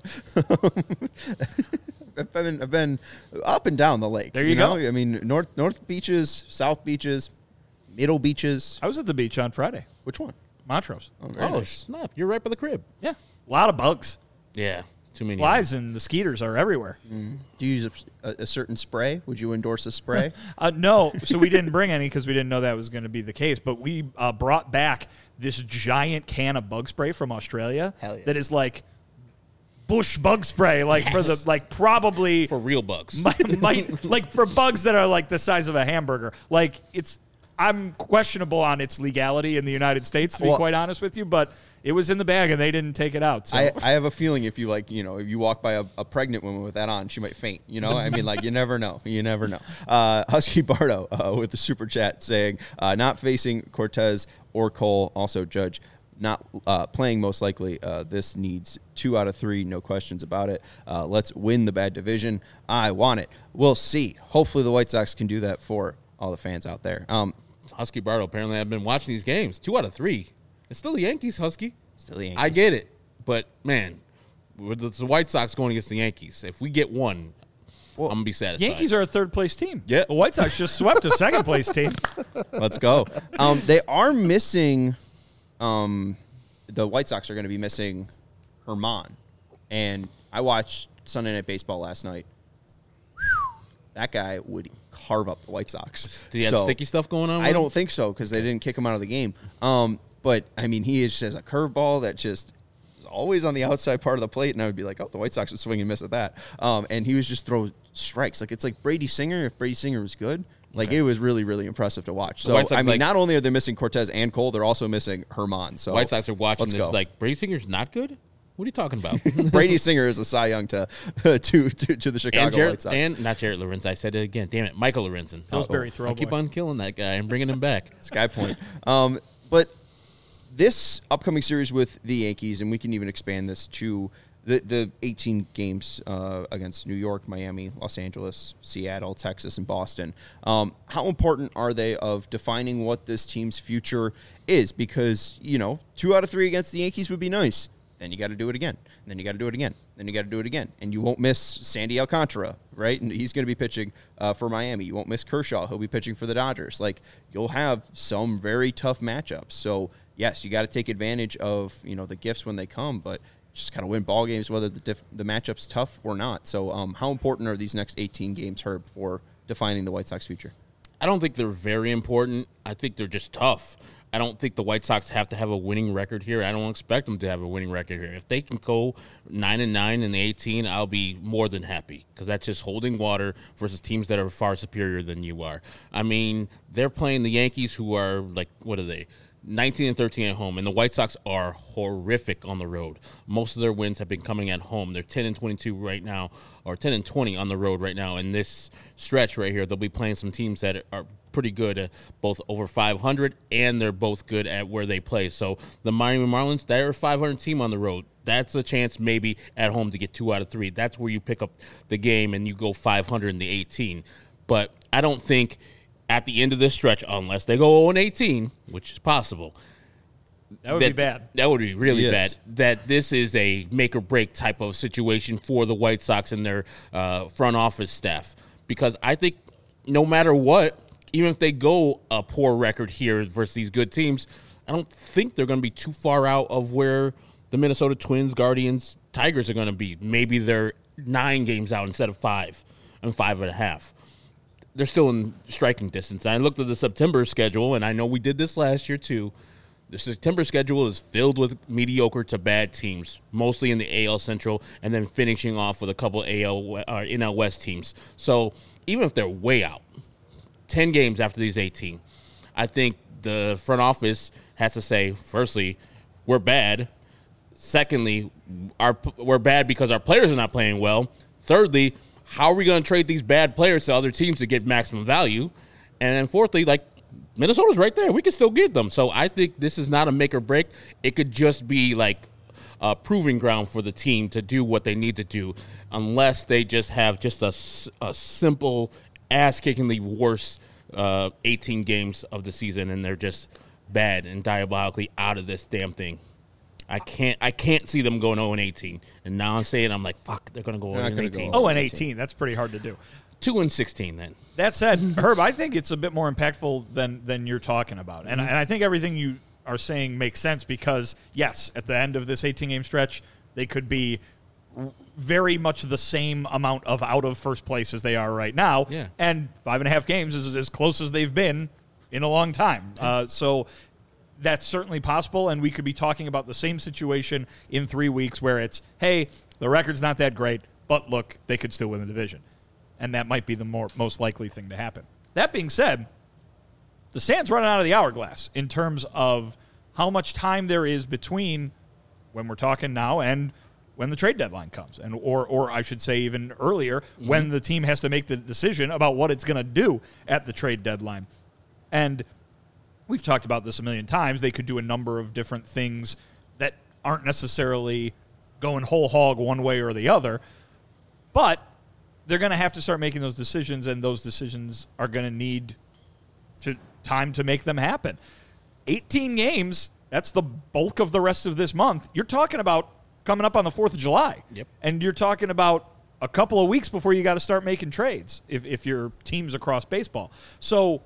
I've been up and down the lake. There you go. I mean, north beaches, south beaches, middle beaches. I was at the beach on Friday. Which one? Montrose. Oh, very oh, nice. snap. You're right by the crib. Yeah. A lot of bugs. Yeah. Too many. Flies and the skeeters are everywhere. Do you use a certain spray? Would you endorse a spray? No, so we didn't bring any because we didn't know that was going to be the case. But we brought back this giant can of bug spray from Australia. Hell yeah. That is like bush bug spray, probably For real bugs. might like for bugs that are like the size of a hamburger. Like I'm questionable on its legality in the United States, to be quite honest with you, but it was in the bag and they didn't take it out. So I have a feeling if you if you walk by a pregnant woman with that on, she might faint. I mean, you never know. You never know. Husky Bardo with the super chat saying, not facing Cortez or Cole. Also, Judge not playing most likely. This needs 2 out of 3, no questions about it. Let's win the bad division. I want it. We'll see. Hopefully the White Sox can do that for all the fans out there. Husky Bardo, apparently I've been watching these games. 2 out of 3. It's still the Yankees, Husky. Still the Yankees. I get it. But, man, with the White Sox going against the Yankees, if we get one, I'm going to be satisfied. Yankees are a third-place team. Yeah. The White Sox just swept a second-place team. Let's go. They are missing. The White Sox are going to be missing Herman, and I watched Sunday Night Baseball last night. that guy would carve up the White Sox. Did he have sticky stuff going on? I don't think so because they didn't kick him out of the game. But, I mean, he just has a curveball that just is always on the outside part of the plate, and I would be like, oh, the White Sox would swing and miss at that. And he was just throw strikes. Like, it's like Brady Singer if Brady Singer was good. Like, it was really, really impressive to watch. So, I mean, not only are they missing Cortez and Cole, they're also missing Herman. So White Sox are watching this like, Brady Singer's not good? What are you talking about? Brady Singer is a Cy Young to the Chicago White Sox. And not Jarrett Lorenzen. I said it again. Damn it. Michael Lorenzen. Pillsbury throw. I keep on killing that guy and bringing him back. Sky Point. But this upcoming series with the Yankees, and we can even expand this to the 18 games against New York, Miami, Los Angeles, Seattle, Texas, and Boston. How important are they of defining what this team's future is? Because, 2 out of 3 against the Yankees would be nice. Then you got to do it again. And then you got to do it again. Then you got to do it again. And you won't miss Sandy Alcantara, right? And he's going to be pitching for Miami. You won't miss Kershaw. He'll be pitching for the Dodgers. Like, you'll have some very tough matchups. So, yes, you got to take advantage of, the gifts when they come, but just kind of win ball games, whether the matchup's tough or not. So, how important are these next 18 games, Herb, for defining the White Sox future? I don't think they're very important. I think they're just tough. I don't think the White Sox have to have a winning record here. I don't expect them to have a winning record here. If they can go 9-9 in the 18, I'll be more than happy because that's just holding water versus teams that are far superior than you are. I mean, they're playing the Yankees, who are like, what are they? 19-13 at home, and the White Sox are horrific on the road. Most of their wins have been coming at home. They're 10-22 right now, or 10-20 on the road right now. In this stretch right here, they'll be playing some teams that are pretty good, both over 500, and they're both good at where they play. So the Miami Marlins, they're a 500 team on the road. That's a chance maybe at home to get 2 out of 3. That's where you pick up the game and you go 500 in the 18. But I don't think at the end of this stretch, unless they go 0-18, which is possible. That would be bad. That would be really bad. That this is a make-or-break type of situation for the White Sox and their front office staff. Because I think no matter what, even if they go a poor record here versus these good teams, I don't think they're going to be too far out of where the Minnesota Twins, Guardians, Tigers are going to be. Maybe they're 9 games out instead of 5 and 5.5. They're still in striking distance. I looked at the September schedule, and I know we did this last year too. The September schedule is filled with mediocre to bad teams, mostly in the AL Central, and then finishing off with a couple NL West teams. So even if they're way out, 10 games after these 18, I think the front office has to say, firstly, we're bad. Secondly, we're bad because our players are not playing well. Thirdly, how are we going to trade these bad players to other teams to get maximum value? And then fourthly, Minnesota's right there. We can still get them. So I think this is not a make or break. It could just be a proving ground for the team to do what they need to do, unless they just have just a simple ass-kickingly worse 18 games of the season, and they're just bad and diabolically out of this damn thing. I can't see them going 0-18. And now I'm saying, I'm like, fuck, they're going to go 0-18. 0-18, that's pretty hard to do. 2-16 then. That said, Herb, I think it's a bit more impactful than you're talking about. And I think everything you are saying makes sense because, yes, at the end of this 18-game stretch, they could be very much the same amount of out of first place as they are right now. Yeah. And 5.5 games is as close as they've been in a long time. So that's certainly possible, and we could be talking about the same situation in 3 weeks where it's, hey, the record's not that great, but look, they could still win the division. And that might be the most likely thing to happen. That being said, the sand's running out of the hourglass in terms of how much time there is between when we're talking now and when the trade deadline comes, and or I should say even earlier, when the team has to make the decision about what it's going to do at the trade deadline. And we've talked about this a million times. They could do a number of different things that aren't necessarily going whole hog one way or the other, but they're going to have to start making those decisions, and those decisions are going to need time to make them happen. 18 games, that's the bulk of the rest of this month. You're talking about coming up on the 4th of July. Yep. And you're talking about a couple of weeks before you got to start making trades if your team's across baseball. So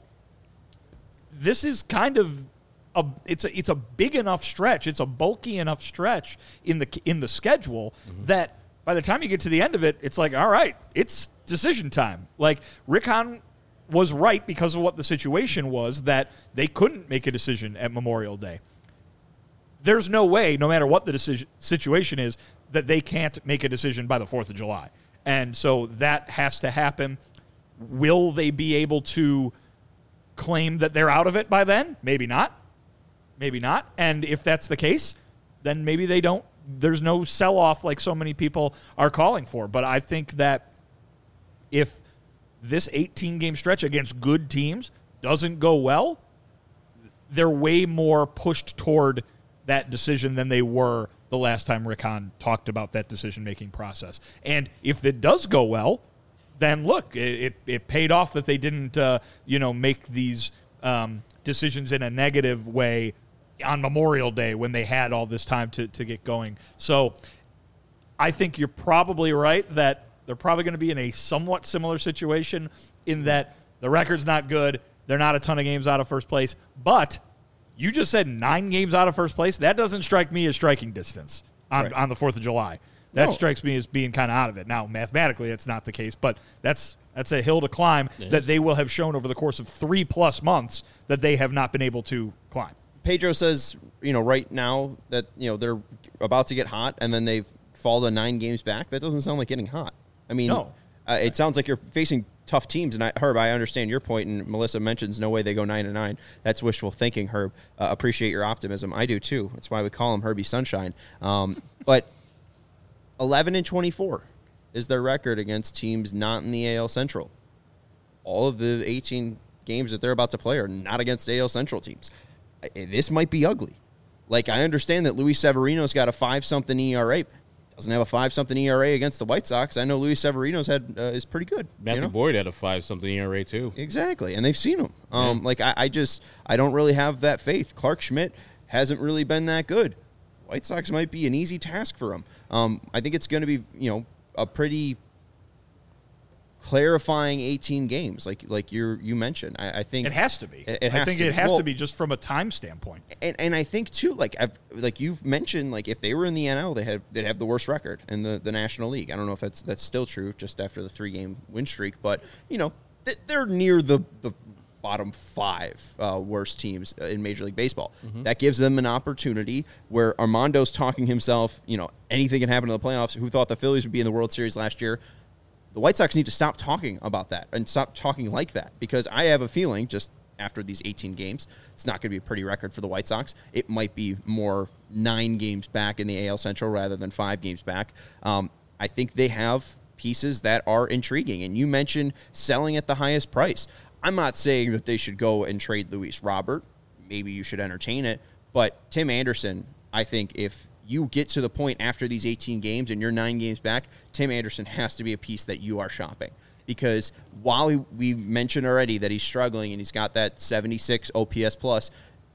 this is kind of it's a big enough stretch. It's a bulky enough stretch in the schedule that by the time you get to the end of it, it's like, all right, it's decision time. Like, Rick Hahn was right because of what the situation was, that they couldn't make a decision at Memorial Day. There's no way, no matter what the situation is, that they can't make a decision by the 4th of July. And so that has to happen. Will they be able to claim that they're out of it by then? Maybe not. Maybe not. And if that's the case, then maybe they don't. There's no sell-off like so many people are calling for. But I think that if this 18-game stretch against good teams doesn't go well, they're way more pushed toward that decision than they were the last time Rick Hahn talked about that decision-making process. And if it does go well, then look, it paid off that they didn't, make these decisions in a negative way on Memorial Day when they had all this time to get going. So I think you're probably right that they're probably going to be in a somewhat similar situation in that the record's not good. They're not a ton of games out of first place. But you just said 9 games out of first place. That doesn't strike me as striking distance on the 4th of July. That strikes me as being kind of out of it. Now, mathematically, it's not the case, but that's a hill to climb that they will have shown over the course of 3+ months that they have not been able to climb. Pedro says, right now that, they're about to get hot and then they've fallen to 9 games back. That doesn't sound like getting hot. I mean, no. It sounds like you're facing tough teams. And Herb, I understand your point, and Melissa mentions no way they go 9-9. That's wishful thinking, Herb. Appreciate your optimism. I do too. That's why we call him Herbie Sunshine. But 11-24 is their record against teams not in the AL Central. All of the 18 games that they're about to play are not against AL Central teams. This might be ugly. Like, I understand that Luis Severino's got a 5-something ERA. Doesn't have a 5-something ERA against the White Sox. I know Luis Severino's is pretty good. Matthew Boyd had a 5-something ERA too. Exactly, and they've seen him. I don't really have that faith. Clark Schmidt hasn't really been that good. White Sox might be an easy task for him. I think it's going to be, a pretty clarifying 18 games, like you mentioned. I think it has to be. It has to be just from a time standpoint. And I think too, like you've mentioned, like if they were in the NL, they'd have the worst record in the National League. I don't know if that's still true just after the 3-game win streak, but they're near the bottom 5 worst teams in Major League Baseball. Mm-hmm. That gives them an opportunity where Armando's talking himself, anything can happen in the playoffs. Who thought the Phillies would be in the World Series last year? The White Sox need to stop talking about that and stop talking like that, because I have a feeling just after these 18 games, it's not going to be a pretty record for the White Sox. It might be more 9 games back in the AL Central rather than 5 games back. I think they have pieces that are intriguing, and you mentioned selling at the highest price. I'm not saying that they should go and trade Luis Robert. Maybe you should entertain it. But Tim Anderson, I think if you get to the point after these 18 games and you're 9 games back, Tim Anderson has to be a piece that you are shopping. Because while we mentioned already that he's struggling and he's got that 76 OPS plus,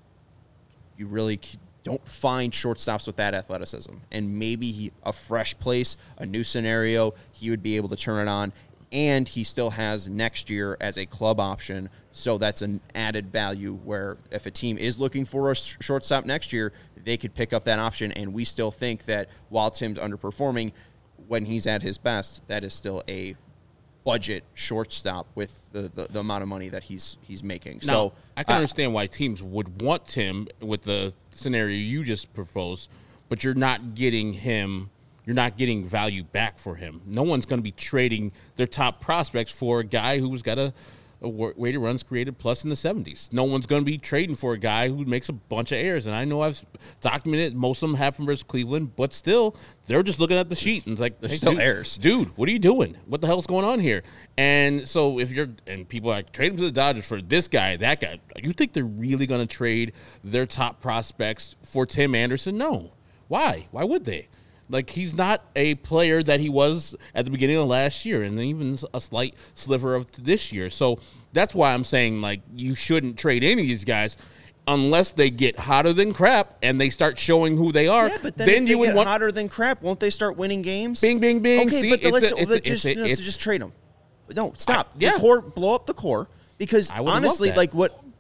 you really don't find shortstops with that athleticism. And maybe a fresh place, a new scenario, he would be able to turn it on. And he still has next year as a club option, so that's an added value where if a team is looking for a shortstop next year, they could pick up that option. And we still think that while Tim's underperforming, when he's at his best, that is still a budget shortstop with the amount of money that he's making. Now, so I can understand why teams would want Tim with the scenario you just proposed, but you're not getting him. You're not getting value back for him. No one's going to be trading their top prospects for a guy who's got a weighted runs created plus in the 70s. No one's going to be trading for a guy who makes a bunch of errors. And I know I've documented most of them happen versus Cleveland, but still, they're just looking at the sheet and it's like, there's still errors. Dude, what are you doing? What the hell's going on here? And so and people are like, trade him to the Dodgers for this guy, that guy. You think they're really going to trade their top prospects for Tim Anderson? No. Why? Why would they? Like, he's not a player that he was at the beginning of last year and even a slight sliver of this year. So that's why I'm saying, like, you shouldn't trade any of these guys unless they get hotter than crap and they start showing who they are. Yeah, but then if they get hotter than crap, won't they start winning games? Bing, bing, bing. Okay, see, but let's just trade them. No, stop. Yeah. The core, blow up the core, because honestly, like what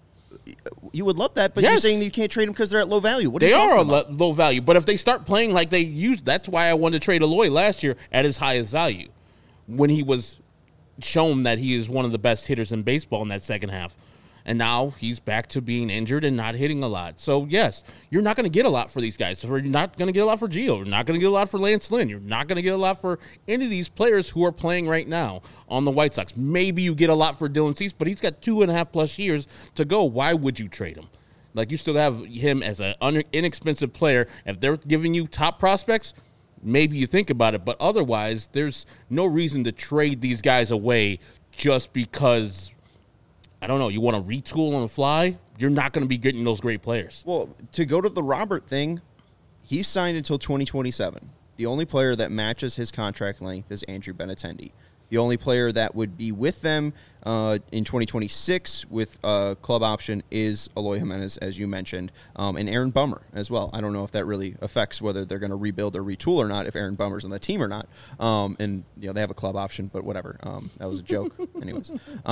you would love that, but you're Yes. saying that you can't trade them because they're at low value. What are They you are talking about? low value, but if they start playing like they used, that's why I wanted to trade Eloy last year at his highest value when he was shown that he is one of the best hitters in baseball in that second half. And now he's back to being injured and not hitting a lot. So, yes, you're not going to get a lot for these guys. You're not going to get a lot for Gio. You're not going to get a lot for Lance Lynn. You're not going to get a lot for any of these players who are playing right now on the White Sox. Maybe you get a lot for Dylan Cease, but he's got 2.5+ years to go. Why would you trade him? Like, you still have him as an inexpensive player. If they're giving you top prospects, maybe you think about it. But otherwise, there's no reason to trade these guys away just because – I don't know, you want to retool on the fly? You're not going to be getting those great players. Well, to go to the Robert thing, he's signed until 2027. The only player that matches his contract length is Andrew Benintendi. The only player that would be with them in 2026 with a club option is Eloy Jimenez, as you mentioned, and Aaron Bummer as well. I don't know if that really affects whether they're going to rebuild or retool or not, if Aaron Bummer's on the team or not. And they have a club option, but whatever. That was a joke. Anyways.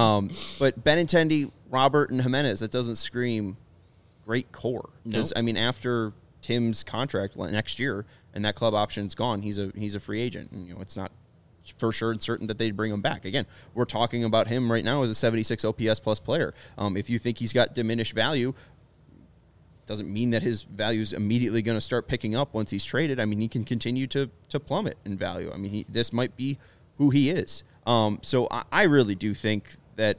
But Benintendi, Robert, and Jimenez, that doesn't scream great core. Because, Nope. After Tim's contract next year and that club option's gone, he's a free agent. And, it's not for sure and certain that they'd bring him back. Again, we're talking about him right now as a 76 OPS plus player. If you think he's got diminished value, doesn't mean that his value is immediately going to start picking up once he's traded. I mean, he can continue to plummet in value. I mean, this might be who he is. So I really do think that,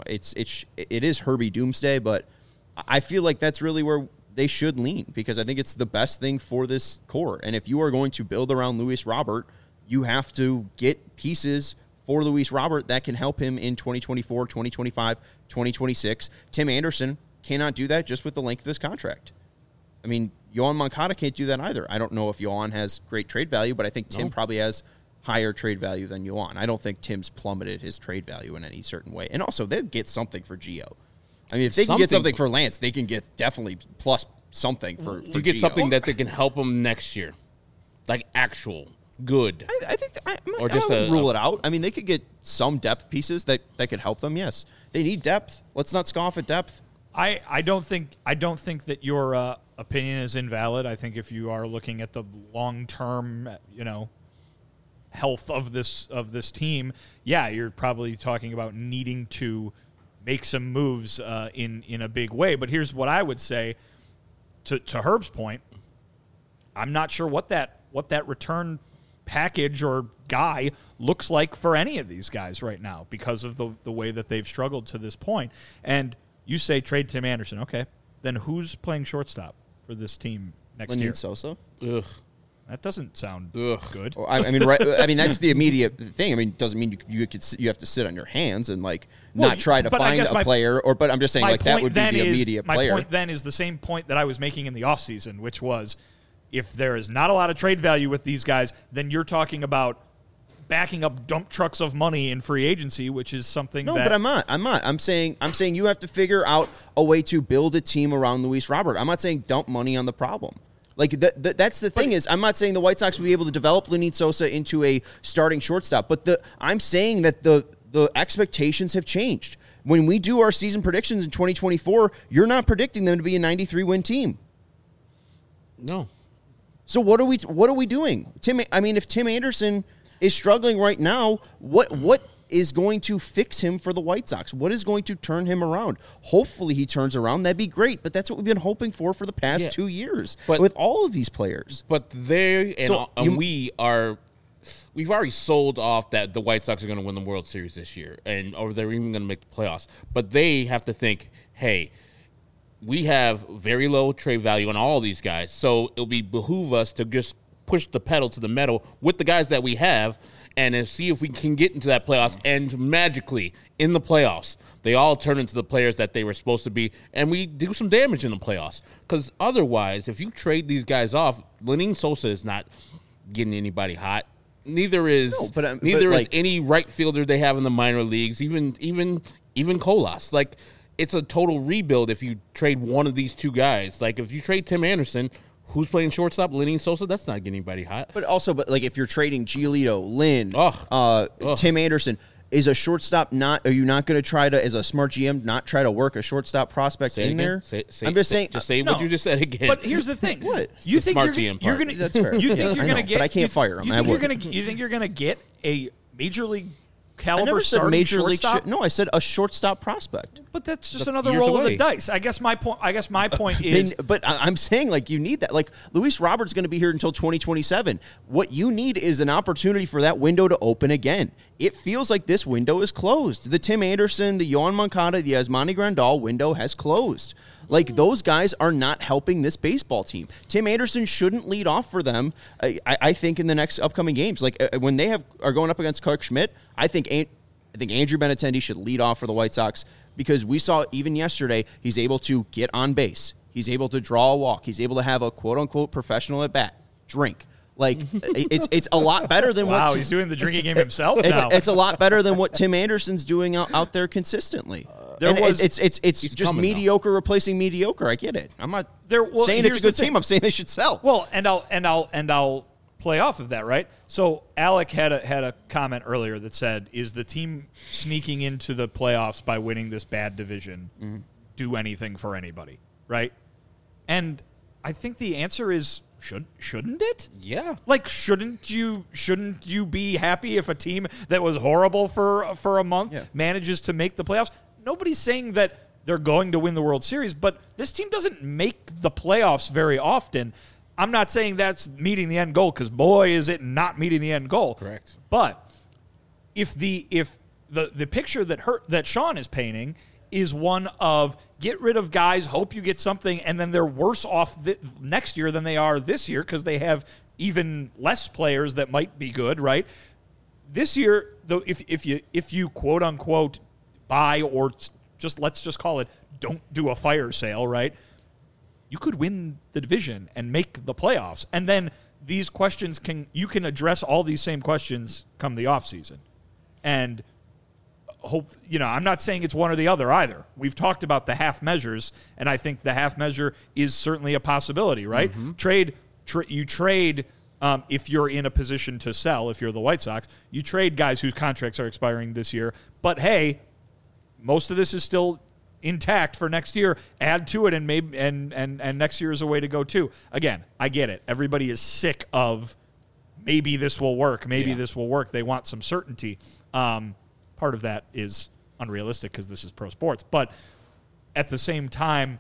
it is Herbie Doomsday, but I feel like that's really where they should lean, because I think it's the best thing for this core. And if you are going to build around Luis Robert, you have to get pieces for Luis Robert that can help him in 2024, 2025, 2026. Tim Anderson cannot do that just with the length of his contract. I mean, Yohan Moncada can't do that either. I don't know if Yohan has great trade value, but I think Tim probably has higher trade value than Yohan. I don't think Tim's plummeted his trade value in any certain way. And also, they'll get something for Gio. I mean, if they can get something for Lance, they can get definitely plus something for You get Gio. something that they can help him next year. Like actual good. I think I just don't rule it out. I mean, they could get some depth pieces that could help them. Yes, they need depth. Let's not scoff at depth. I don't think that your opinion is invalid. I think if you are looking at the long-term, health of this team, yeah, you're probably talking about needing to make some moves in a big way. But here's what I would say to Herb's point. I'm not sure what that return package or guy looks like for any of these guys right now because of the way that they've struggled to this point. And you say trade Tim Anderson. Okay. Then who's playing shortstop for this team next year? Lenyn Sosa. Ugh. That doesn't sound good. Well, I mean, right? I mean, that's the immediate thing. I mean, doesn't mean you have to sit on your hands and not try to find a player. But I'm just saying that would be the immediate player. My point then is the same point that I was making in the offseason, which was if there is not a lot of trade value with these guys, then you're talking about backing up dump trucks of money in free agency, which is something. No, but I'm not. I'm saying you have to figure out a way to build a team around Luis Robert. I'm not saying dump money on the problem. That's the thing is, I'm not saying the White Sox will be able to develop Lenyn Sosa into a starting shortstop, but I'm saying that the expectations have changed. When we do our season predictions in 2024, you're not predicting them to be a 93-win team. No. So what are we doing? If Tim Anderson is struggling right now, what is going to fix him for the White Sox? What is going to turn him around? Hopefully he turns around. That'd be great. But that's what we've been hoping for the past 2 years with all of these players. But we've already sold off that the White Sox are going to win the World Series this year, or they're even going to make the playoffs. But they have to think, hey, we have very low trade value on all these guys, so it'll behoove us to just push the pedal to the metal with the guys that we have and see if we can get into that playoffs. And magically, in the playoffs, they all turn into the players that they were supposed to be, and we do some damage in the playoffs. Because otherwise, if you trade these guys off, Lenyn Sosa is not getting anybody hot. Neither is any right fielder they have in the minor leagues, even Colas. It's a total rebuild if you trade one of these two guys. If you trade Tim Anderson, who's playing shortstop? Lenyn Sosa? That's not getting anybody hot. But if you're trading Giolito, Lynn, Tim Anderson, is a shortstop not? Are you not going to try to, as a smart GM, not try to work a shortstop prospect in there? I'm just saying. Just say what you just said again. But here's the thing: What? You The think smart you're, GM you're part. gonna? That's fair. You think you're I gonna know, get? but I can't fire him. You think you're gonna get a major league I caliber never said starting major league. shortstop? No, I said a shortstop prospect. But that's just That's another years roll of away. the dice. I guess my point is. But I'm saying, like, you need that. Like, Luis Robert's going to be here until 2027. What you need is an opportunity for that window to open again. It feels like this window is closed. The Tim Anderson, the Yohan Moncada, the Yasmani Grandal window has closed. Like, those guys are not helping this baseball team. Tim Anderson shouldn't lead off for them, I think, in the next upcoming games. Like, when they are going up against Clark Schmidt, I think Andrew Benintendi should lead off for the White Sox, because we saw even yesterday he's able to get on base. He's able to draw a walk. He's able to have a quote-unquote professional at-bat, drink. Like, it's a lot better than Wow, what... he's doing the drinking game himself now. It's a lot better than what Tim Anderson's doing out there consistently. It's just coming mediocre replacing mediocre. I get it. I'm not saying it's here's a good the thing. team. I'm saying they should sell. Well, and I'll play off of that, right? So Alec had a comment earlier that said, "Is the team sneaking into the playoffs by winning this bad division do anything for anybody?" Right? And I think the answer is shouldn't it? Yeah. Like, shouldn't you be happy if a team that was horrible for a month manages to make the playoffs? Nobody's saying that they're going to win the World Series, but this team doesn't make the playoffs very often. I'm not saying that's meeting the end goal, because boy, is it not meeting the end goal. Correct. But if the picture that Sean is painting is one of get rid of guys, hope you get something, and then they're worse off next year than they are this year because they have even less players that might be good, right? This year, though, if you quote unquote buy, or let's just call it, don't do a fire sale, right? You could win the division and make the playoffs, and then these questions you can address all these same questions come the offseason. And hope, I'm not saying it's one or the other either. We've talked about the half measures, and I think the half measure is certainly a possibility, right? You trade if you're in a position to sell. If you're the White Sox, you trade guys whose contracts are expiring this year. But hey, most of this is still intact for next year. Add to it, and maybe and next year is a way to go too. Again, I get it. Everybody is sick of maybe this will work. Maybe this will work. They want some certainty. Part of that is unrealistic because this is pro sports. But at the same time,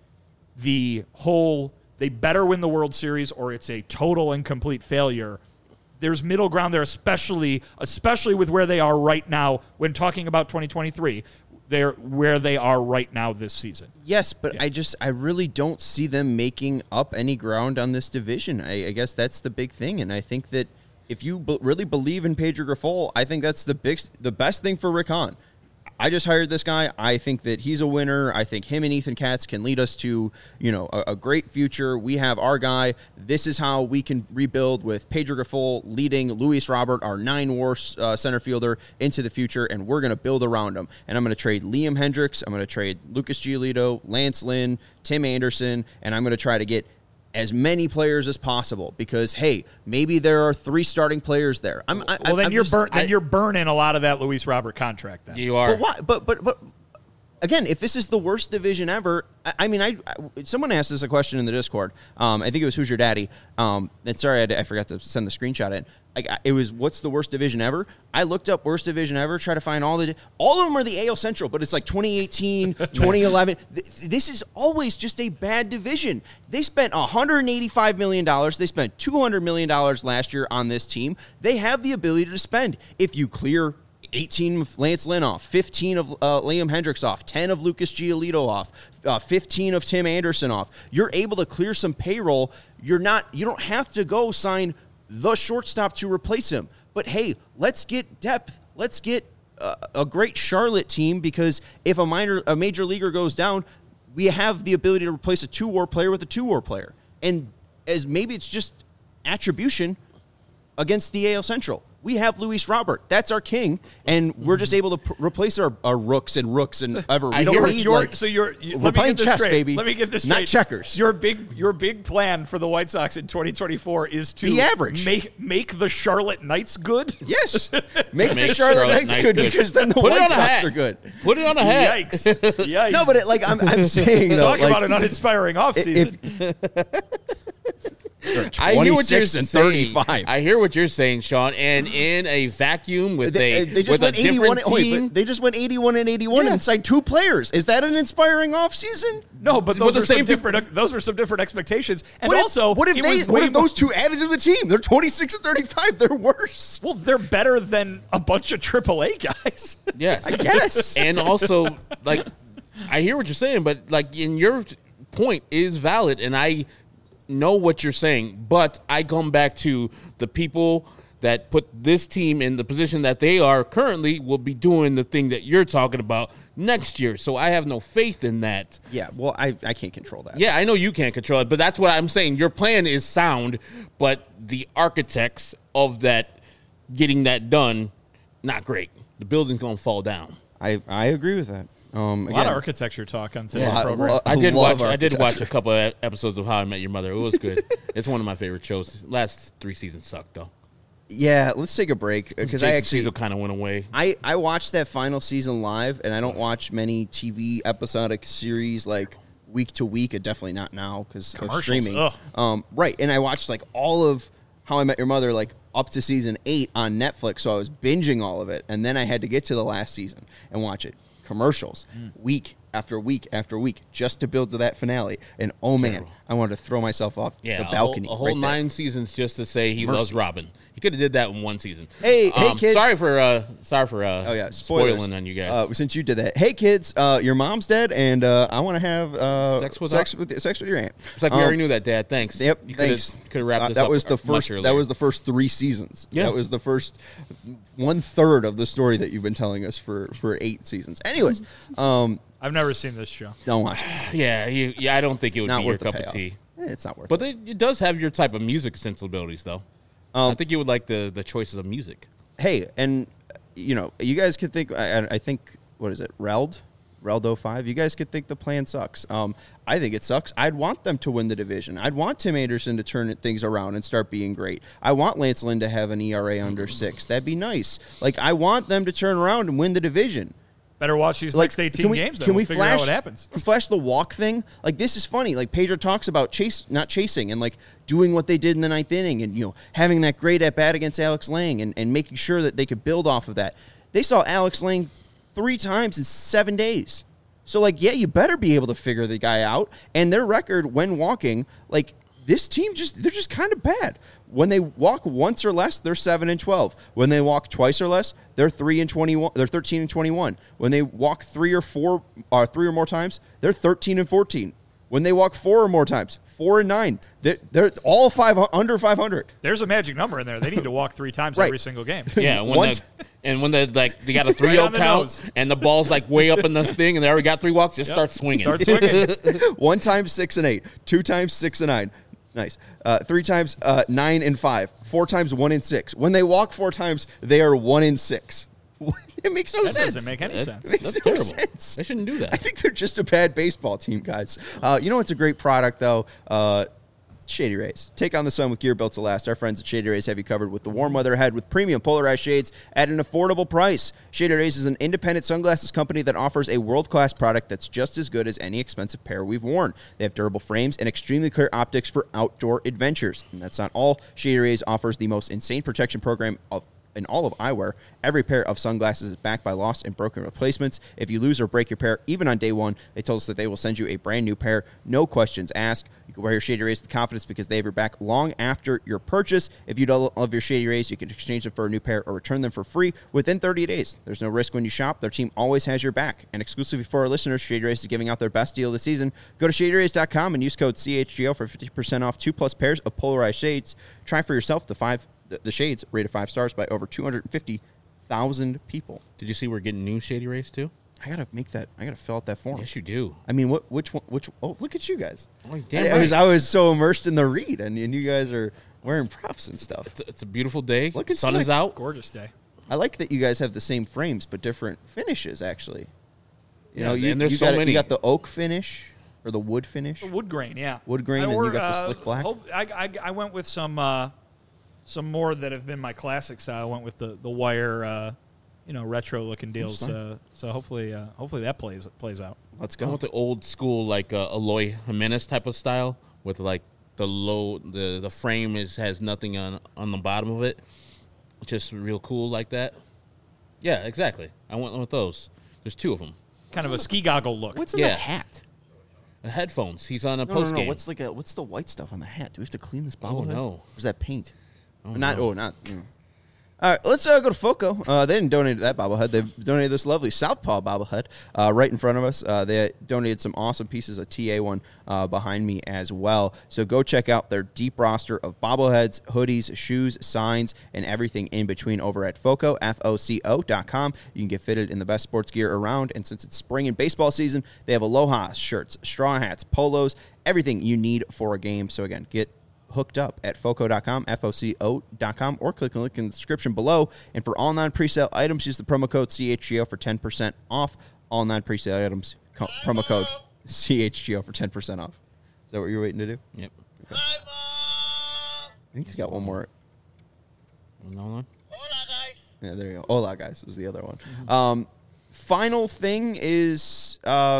they better win the World Series or it's a total and complete failure. There's middle ground there, especially with where they are right now when talking about 2023. They're where they are right now this season. Yes, but I really don't see them making up any ground on this division. I guess that's the big thing, and I think that if you really believe in Pedro Grifol, I think that's the best thing for Rick Hahn. I just hired this guy. I think that he's a winner. I think him and Ethan Katz can lead us to, a great future. We have our guy. This is how we can rebuild with Pedro Grifol leading Luis Robert, our 9-WAR center fielder, into the future, and we're going to build around him. And I'm going to trade Liam Hendricks. I'm going to trade Lucas Giolito, Lance Lynn, Tim Anderson, and I'm going to try to get as many players as possible because, hey, maybe there are 3 starting players there. You're burning a lot of that Luis Robert contract then. You are. But why? But again, if this is the worst division ever, someone asked us a question in the Discord. I think it was Who's Your Daddy? And sorry, I forgot to send the screenshot in. It was what's the worst division ever? I looked up worst division ever, try to find all of them are the AL Central, but it's like 2018, 2011. This is always just a bad division. They spent $185 million. They spent $200 million last year on this team. They have the ability to spend. If you clear 18 of Lance Lynn off, 15 of Liam Hendricks off, 10 of Lucas Giolito off, 15 of Tim Anderson off. You're able to clear some payroll. You don't have to go sign the shortstop to replace him. But hey, let's get depth. Let's get a great Charlotte team because if a major leaguer goes down, we have the ability to replace a 2-WAR player with a 2-WAR player. And as maybe it's just attribution against the AL Central. We have Luis Robert. That's our king, and we're just able to replace our rooks and ever. We don't need, we're playing chess, straight. baby. Let me get this straight. Not checkers. Your big plan for the White Sox in 2024 is to be average. Make the Charlotte Knights good. Yes, make the Charlotte Knights good because then the White Sox are good. Put it on a hat. Yikes! Yikes! No, but I'm saying though, talk about an uninspiring offseason. I hear what you're 35. saying. I hear what you're saying, Sean. And in a vacuum with they just went 81. But they just went 81 and 81 and signed 2 players. Is that an inspiring offseason? No, but those were some different expectations. And what if those 2 added to the team? They're 26 and 35. They're worse. Well, they're better than a bunch of AAA guys. Yes, I guess. And also, I hear what you're saying, but in your point is valid, and I know what you're saying, but I come back to the people that put this team in the position that they are currently will be doing the thing that you're talking about next year. So I have no faith in that. Yeah, well, I can't control that. Yeah, I know you can't control it, but that's what I'm saying. Your plan is sound, but the architects of that getting that done, not great. The building's going to fall down. I agree with that. A lot of architecture talk on today's program. I did watch a couple of episodes of How I Met Your Mother. It was good. It's one of my favorite shows. Last 3 seasons sucked, though. Yeah, let's take a break because Cecil kind of went away. I watched that final season live, and I don't watch many TV episodic series week to week. Definitely not now because of streaming. Right, and I watched all of How I Met Your Mother up to season 8 on Netflix, so I was binging all of it, and then I had to get to the last season and watch it. Commercials week after week after week just to build to that finale. And man, I wanted to throw myself off the balcony. A whole 9 seasons just to say he loves Robin. He could have did that in 1 season. Hey, kids! Sorry for spoilers. spoiling on you guys. Since you did that, hey kids, your mom's dead, and I want to have sex with your aunt. It's like we already knew that, Dad. Thanks. Yep. You thanks. Could have wrapped this that up. Was the first. That was the first 3 seasons. Yeah. That was the first 1/3 of the story that you've been telling us for 8 seasons. Anyways, I've never seen this show. Don't watch it. Yeah. I don't think it would not be your cup of tea. It's not worth it. But it does have your type of music sensibilities, though. I think you would like the choices of music. Hey, and you guys could think. I think what is it, Reld 05? You guys could think the plan sucks. I think it sucks. I'd want them to win the division. I'd want Tim Anderson to turn things around and start being great. I want Lance Lynn to have an ERA under 6. That'd be nice. I want them to turn around and win the division. Better watch these next 18 games. Then we'll figure out what happens. Flash the walk thing? This is funny. Pedro talks about not chasing and doing what they did in the 9th inning and having that great at bat against Alex Lang and making sure that they could build off of that. They saw Alex Lang 3 times in 7 days. So you better be able to figure the guy out. And their record when walking, this team they're just kind of bad. When they walk once or less, they're 7-12. When they walk twice or less, they're 3-21. They're 13-21. When they walk 3 or more times, they're 13-14. When they walk 4 or more times, 4-9. They're all under 500. There's a magic number in there. They need to walk 3 times every single game. Yeah, when they got a 3-0 count and the ball's way up in the thing and they already got 3 walks, just start swinging. 1 time 6-8, 2 times 6-9. Nice. 3 times 9-5. 4 times 1-6. When they walk 4 times, they are 1-6. It makes no sense. That doesn't make any sense. That's terrible. Sense. They shouldn't do that. I think they're just a bad baseball team, guys. It's a great product, though? Shady Rays. Take on the sun with gear built to last. Our friends at Shady Rays have you covered with the warm weather ahead with premium polarized shades at an affordable price. Shady Rays is an independent sunglasses company that offers a world-class product that's just as good as any expensive pair we've worn. They have durable frames and extremely clear optics for outdoor adventures. And that's not all. Shady Rays offers the most insane protection program in all of eyewear. Every pair of sunglasses is backed by lost and broken replacements. If you lose or break your pair, even on day 1, they told us that they will send you a brand new pair. No questions asked. You can wear your Shady Rays with confidence because they have your back long after your purchase. If you don't love your Shady Rays, you can exchange them for a new pair or return them for free within 30 days. There's no risk when you shop. Their team always has your back. And exclusively for our listeners, Shady Rays is giving out their best deal of the season. Go to ShadyRays.com and use code CHGO for 50% off 2+ pairs of polarized shades. Try for yourself the shades rated 5 stars by over 250,000 people. Did you see we're getting new Shady Rays too? I gotta fill out that form. Yes, you do. I mean, which one? Oh, look at you guys. Oh, damn right. I was so immersed in the read, and you guys are wearing props and stuff. It's a beautiful day. Looking Sun is slick. out. Gorgeous day. I like that you guys have the same frames but different finishes. Actually, you know, and there's so got many. You got the oak finish or the wood finish. Wood grain, yeah. Wood grain, and you got the slick black. I went with some more that have been my classic style. I went with the wire, retro looking deals. So hopefully that plays out. Let's I go. want the old school like Eloy Jimenez type of style with like the frame has nothing on the bottom of it. Just real cool like that. Yeah, exactly. I went with those. There's 2 of them. Kind of a ski goggle look. What's in the hat? Headphones. He's on a No, post game. What's the white stuff on the hat? Do we have to clean this Oh, bobblehead? no. Or is that paint? Not. All right, let's go to Foco. They didn't donate that bobblehead. They donated this lovely Southpaw bobblehead right in front of us. They donated some awesome pieces of TA1 behind me as well. So go check out their deep roster of bobbleheads, hoodies, shoes, signs, and everything in between over at Foco, FOCO.com. You can get fitted in the best sports gear around. And since it's spring and baseball season, they have Aloha shirts, straw hats, polos, everything you need for a game. So again, get hooked up at foco.com, FOCO.com, or click the link in the description below. And for all non-presale items, use the promo code CHGO for 10% off. All non-presale items, promo code CHGO for 10% off. Is that what you're waiting to do? Yep. Okay. I think he's got one more. Another one? Yeah, there you go. Hola, guys, is the other one. Mm-hmm. Final thing is, I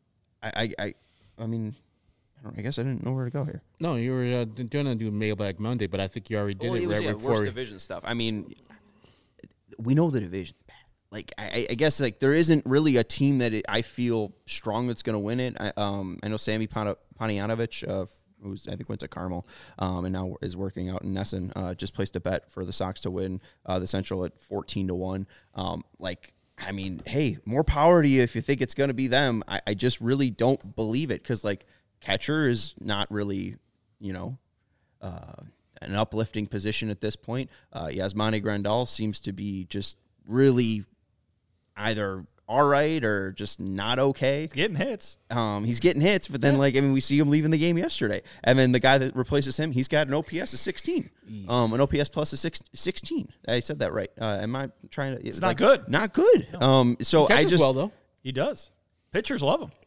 guess I didn't know where to go here. No, you were going to do Mailbag Monday, but I think you already did it right before. Worst division stuff. I mean, we know the division's bad. Like, I guess like there isn't really a team that I feel strong that's going to win it. I know Sammy Pontianovich, who's I think went to Carmel, and now is working out in Nesson. Just placed a bet for the Sox to win the Central at 14-1. I mean, hey, more power to you if you think it's going to be them. I just really don't believe it because like. Catcher is not really, an uplifting position at this point. Yasmani Grandal seems to be just really either all right or just not okay. He's getting hits. He's getting hits, but then, we see him leaving the game yesterday. And then the guy that replaces him, he's got an OPS of 16. An OPS plus of 16. I said that right. Am I trying to... It's not good. Not good. No. So he I just... well, though. He does. Pitchers love him.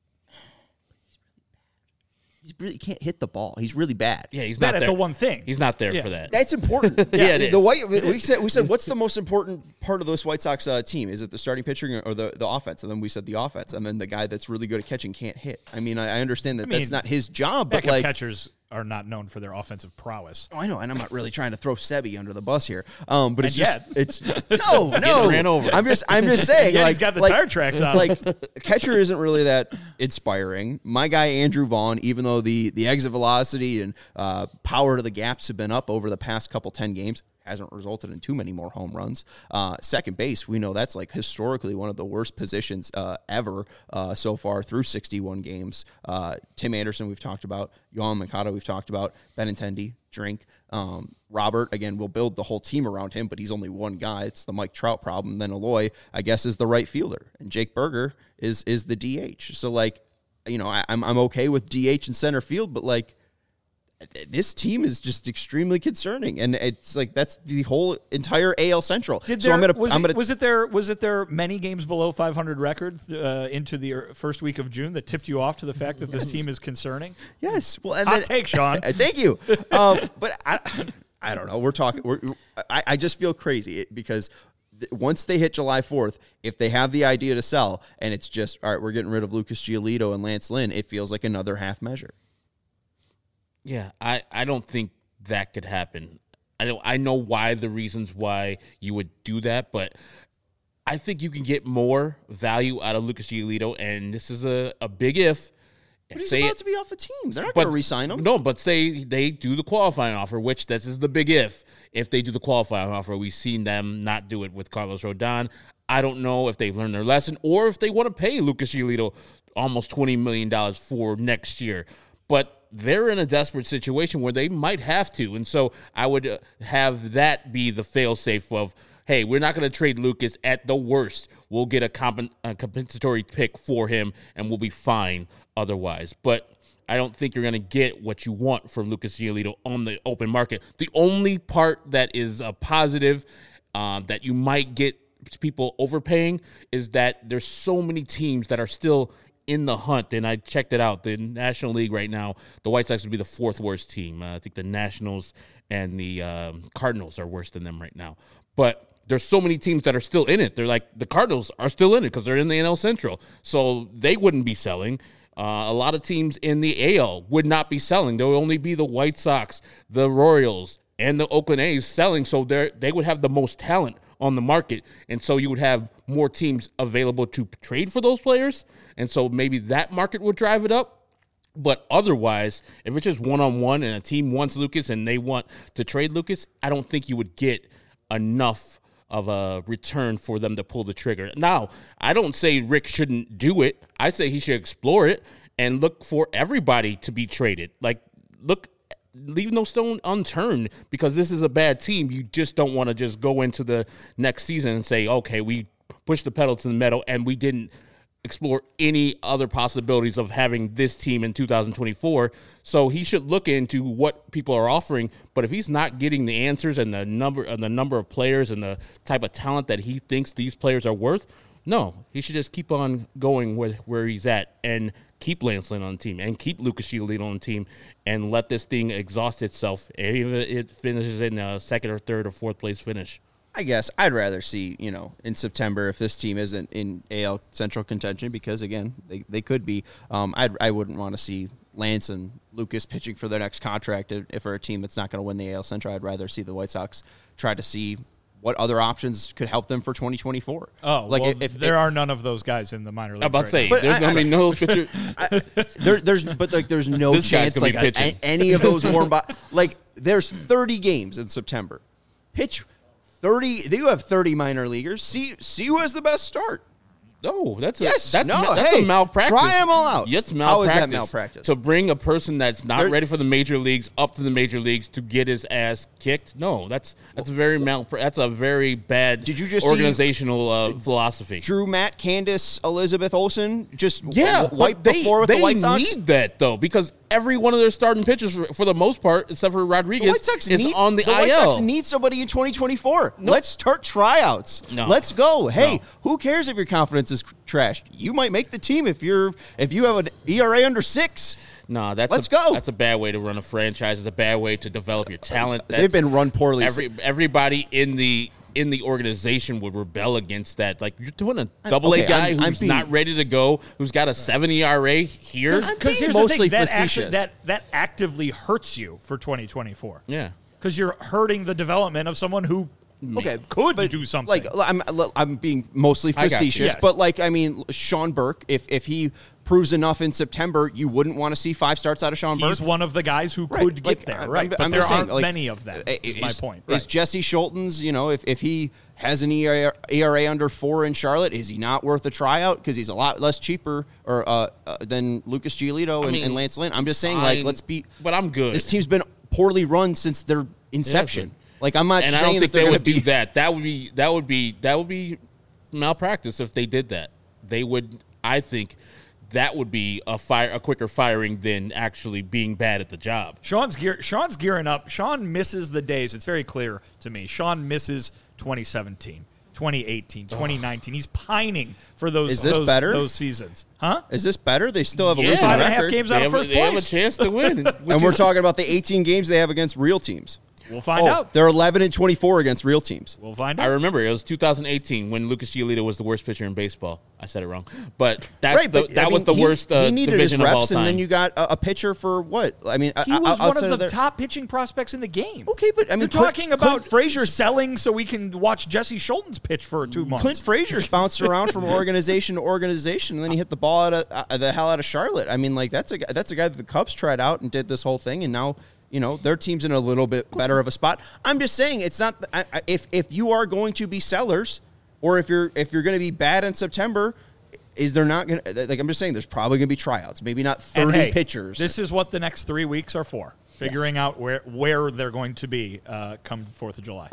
He really can't hit the ball. He's really bad. Yeah, he's bad not at there. the one thing. He's not there for that. That's important. Yeah, it is. We said what's the most important part of this White Sox team? Is it the starting pitching or the offense? And then we said the offense. And then the guy that's really good at catching can't hit. I mean, I understand that that's not his job, but backup catchers are not known for their offensive prowess. Oh, I know, and I'm not really trying to throw Sebi under the bus here. But it's and just no. Ran over. I'm just saying. Yeah, he's got the tire tracks on. Catcher isn't really that inspiring. My guy Andrew Vaughn, even though the exit velocity and power to the gaps have been up over the past couple 10 games, hasn't resulted in too many more home runs. Second base, we know that's like historically one of the worst positions ever so far through 61 games. Tim Anderson, we've talked about. Yohan Mikado, we've talked about. Benintendi, Drink. Robert, again, we'll build the whole team around him, but he's only one guy. It's the Mike Trout problem. Then Eloy, I guess, is the right fielder. And Jake Berger is the DH. So, I'm okay with DH in center field, but, this team is just extremely concerning, and it's that's the whole entire AL Central. Was it their many games below 500 record into the first week of June that tipped you off to the fact that this team is concerning? Yes. Well, and hot take, Sean. Thank you. But I don't know. I just feel crazy because once they hit July 4th, if they have the idea to sell, and it's just all right, we're getting rid of Lucas Giolito and Lance Lynn, it feels like another half measure. Yeah, I don't think that could happen. I know why the reasons why you would do that, but I think you can get more value out of Lucas Giolito, and this is a big if. But he's about to be off the team. They're not going to re-sign him. No, but say they do the qualifying offer, which this is the big if. If they do the qualifying offer, we've seen them not do it with Carlos Rodon. I don't know if they've learned their lesson or if they want to pay Lucas Giolito almost $20 million for next year. But they're in a desperate situation where they might have to. And so I would have that be the fail-safe of, hey, we're not going to trade Lucas at the worst. We'll get a compensatory pick for him, and we'll be fine otherwise. But I don't think you're going to get what you want from Lucas Giolito on the open market. The only part that is a positive that you might get people overpaying is that there's so many teams that are still in the hunt, and I checked it out. The National League right now, the White Sox would be the fourth worst team. I think the Nationals and the Cardinals are worse than them right now. But there's so many teams that are still in it. They're like, the Cardinals are still in it because they're in the NL Central. So they wouldn't be selling. A lot of teams in the AL would not be selling. There would only be the White Sox, the Royals, and the Oakland A's selling. So they would have the most talent on the market. And so you would have more teams available to trade for those players. And so maybe that market would drive it up. But otherwise, if it's just one-on-one and a team wants Lucas and they want to trade Lucas, I don't think you would get enough of a return for them to pull the trigger. Now, I don't say Rick shouldn't do it. I say he should explore it and look for everybody to be traded. Like, leave no stone unturned, because this is a bad team. You just don't want to just go into the next season and say, okay, we pushed the pedal to the metal and we didn't explore any other possibilities of having this team in 2024. So he should look into what people are offering. But if he's not getting the answers and the number of players and the type of talent that he thinks these players are worth, no, he should just keep on going where he's at and keep Lance Lynn on the team and keep Lucas Giolito on the team and let this thing exhaust itself. Even if it finishes in a second or third or fourth place finish. I guess I'd rather see, in September, if this team isn't in AL Central contention, because, again, they could be. I wouldn't want to see Lance and Lucas pitching for their next contract if for a team that's not going to win the AL Central. I'd rather see the White Sox try to see what other options could help them for 2024. Oh, like, well, if there are none of those guys in the minor leagues. I'm about to say, there's no pitcher. There's no this chance like any of those warm there's 30 games in September. Pitch 30. You have 30 minor leaguers. See who has the best start. No, that's a malpractice. Try them all out. It's malpractice. How is that malpractice? To bring a person that's not ready for the major leagues up to the major leagues to get his ass kicked? No, that's a very bad. Did you just organizational philosophy? Drew, Matt, Candace, Elizabeth Olsen just wiped the floor with the White Sox? They need that, though, because every one of their starting pitchers, for the most part, except for Rodriguez, is on the IL. The White Sox need somebody in 2024. No. Let's start tryouts. No. Let's go. Hey, who cares if your confidence is trashed? You might make the team if you have an ERA under 6. No, let's go. That's a bad way to run a franchise. It's a bad way to develop your talent. They've been run poorly. Everybody in the organization would rebel against that. Like, you're doing a double-A guy who's not ready to go, who's got a 7 ERA here. Because here's mostly the thing, facetious. that actively hurts you for 2024. Yeah. Because you're hurting the development of someone who could do something. Like, I'm being mostly facetious, yes. But Sean Burke, if he proves enough in September, you wouldn't want to see 5 starts out of Sean Burke. He's one of the guys who could get there, right? But there aren't many of them. Is my point. Is Jesse Schultens, if he has an ERA under 4 in Charlotte, is he not worth a tryout because he's a lot less cheaper than Lucas Giolito and Lance Lynn? I'm just saying, let's be. But I'm good. This team's been poorly run since their inception. I'm not saying I don't think that they would do that. That would be malpractice if they did that. They would. I think that would be a quicker firing than actually being bad at the job. Sean's gearing up. Sean misses the days. It's very clear to me. Sean misses 2017, 2018, 2019. He's pining for those seasons. Huh? Is this better? They still have a losing 5.5 games out of first place. They have a chance to win. And we're talking about the 18 games they have against real teams. We'll find out. They're 11-24 against real teams. We'll find out. I remember it was 2018 when Lucas Giolito was the worst pitcher in baseball. I said it wrong, but that was the worst division of all time. And then you got a pitcher for what? I mean, he was one of the top pitching prospects in the game. Okay, but you're talking about Frazier selling so we can watch Jesse Schultens pitch for 2 months. Clint Frazier's bounced around from organization to organization, and then he hit the ball the hell out of Charlotte. I mean, that's a guy that the Cubs tried out and did this whole thing, and now. Their team's in a little bit better of a spot. I'm just saying it's not if you are going to be sellers, or if you're going to be bad in September, is there not going to I'm just saying there's probably going to be tryouts, maybe not 30 pitchers. This is what the next 3 weeks are for, figuring out where they're going to be come 4th of July.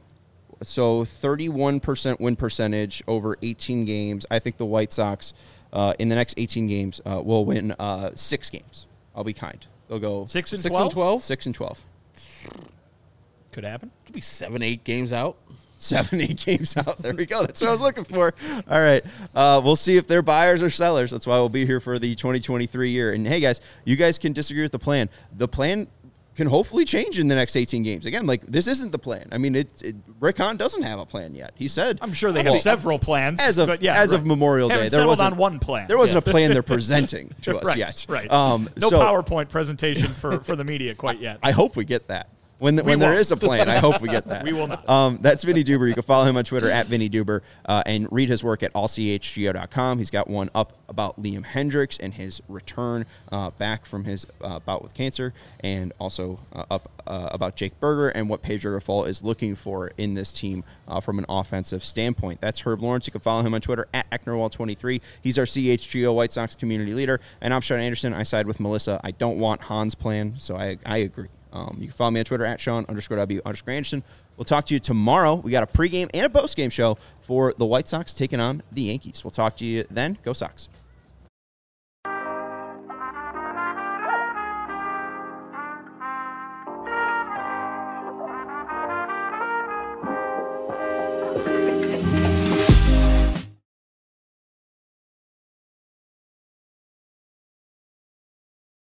So 31% win percentage over 18 games. I think the White Sox in the next 18 games will win 6 games. I'll be kind. They'll go 6 and 6 12? and 12? 6 and 12. Could happen. Could be 7-8 games out. 7-8 games out. There we go. That's what I was looking for. All right. We'll see if they're buyers or sellers. That's why we'll be here for the 2023 year. And hey, guys, you guys can disagree with the plan. The plan can hopefully change in the next 18 games. Again, like, this isn't the plan. I mean, Rick Hahn doesn't have a plan yet. He said, I'm sure they have several plans. as of Memorial Day, Haven't there settled wasn't on one plan. There wasn't a plan they're presenting to us right, yet. Right. No No PowerPoint presentation for the media quite yet. I hope we get that. When there won't. is a plan, I hope we get that. We will not. That's Vinny Duber. You can follow him on Twitter at Vinny Duber and read his work at allchgo.com. He's got one up about Liam Hendriks and his return back from his bout with cancer, and also up about Jake Berger and what Pedro Grifol is looking for in this team from an offensive standpoint. That's Herb Lawrence. You can follow him on Twitter at Ecknerwall23. He's our CHGO White Sox community leader. And I'm Sean Anderson. I side with Melissa. I don't want Hahn's plan, so I agree. You can follow me on Twitter at Sean_W_Anderson. We'll talk to you tomorrow. We got a pregame and a postgame show for the White Sox taking on the Yankees. We'll talk to you then. Go Sox.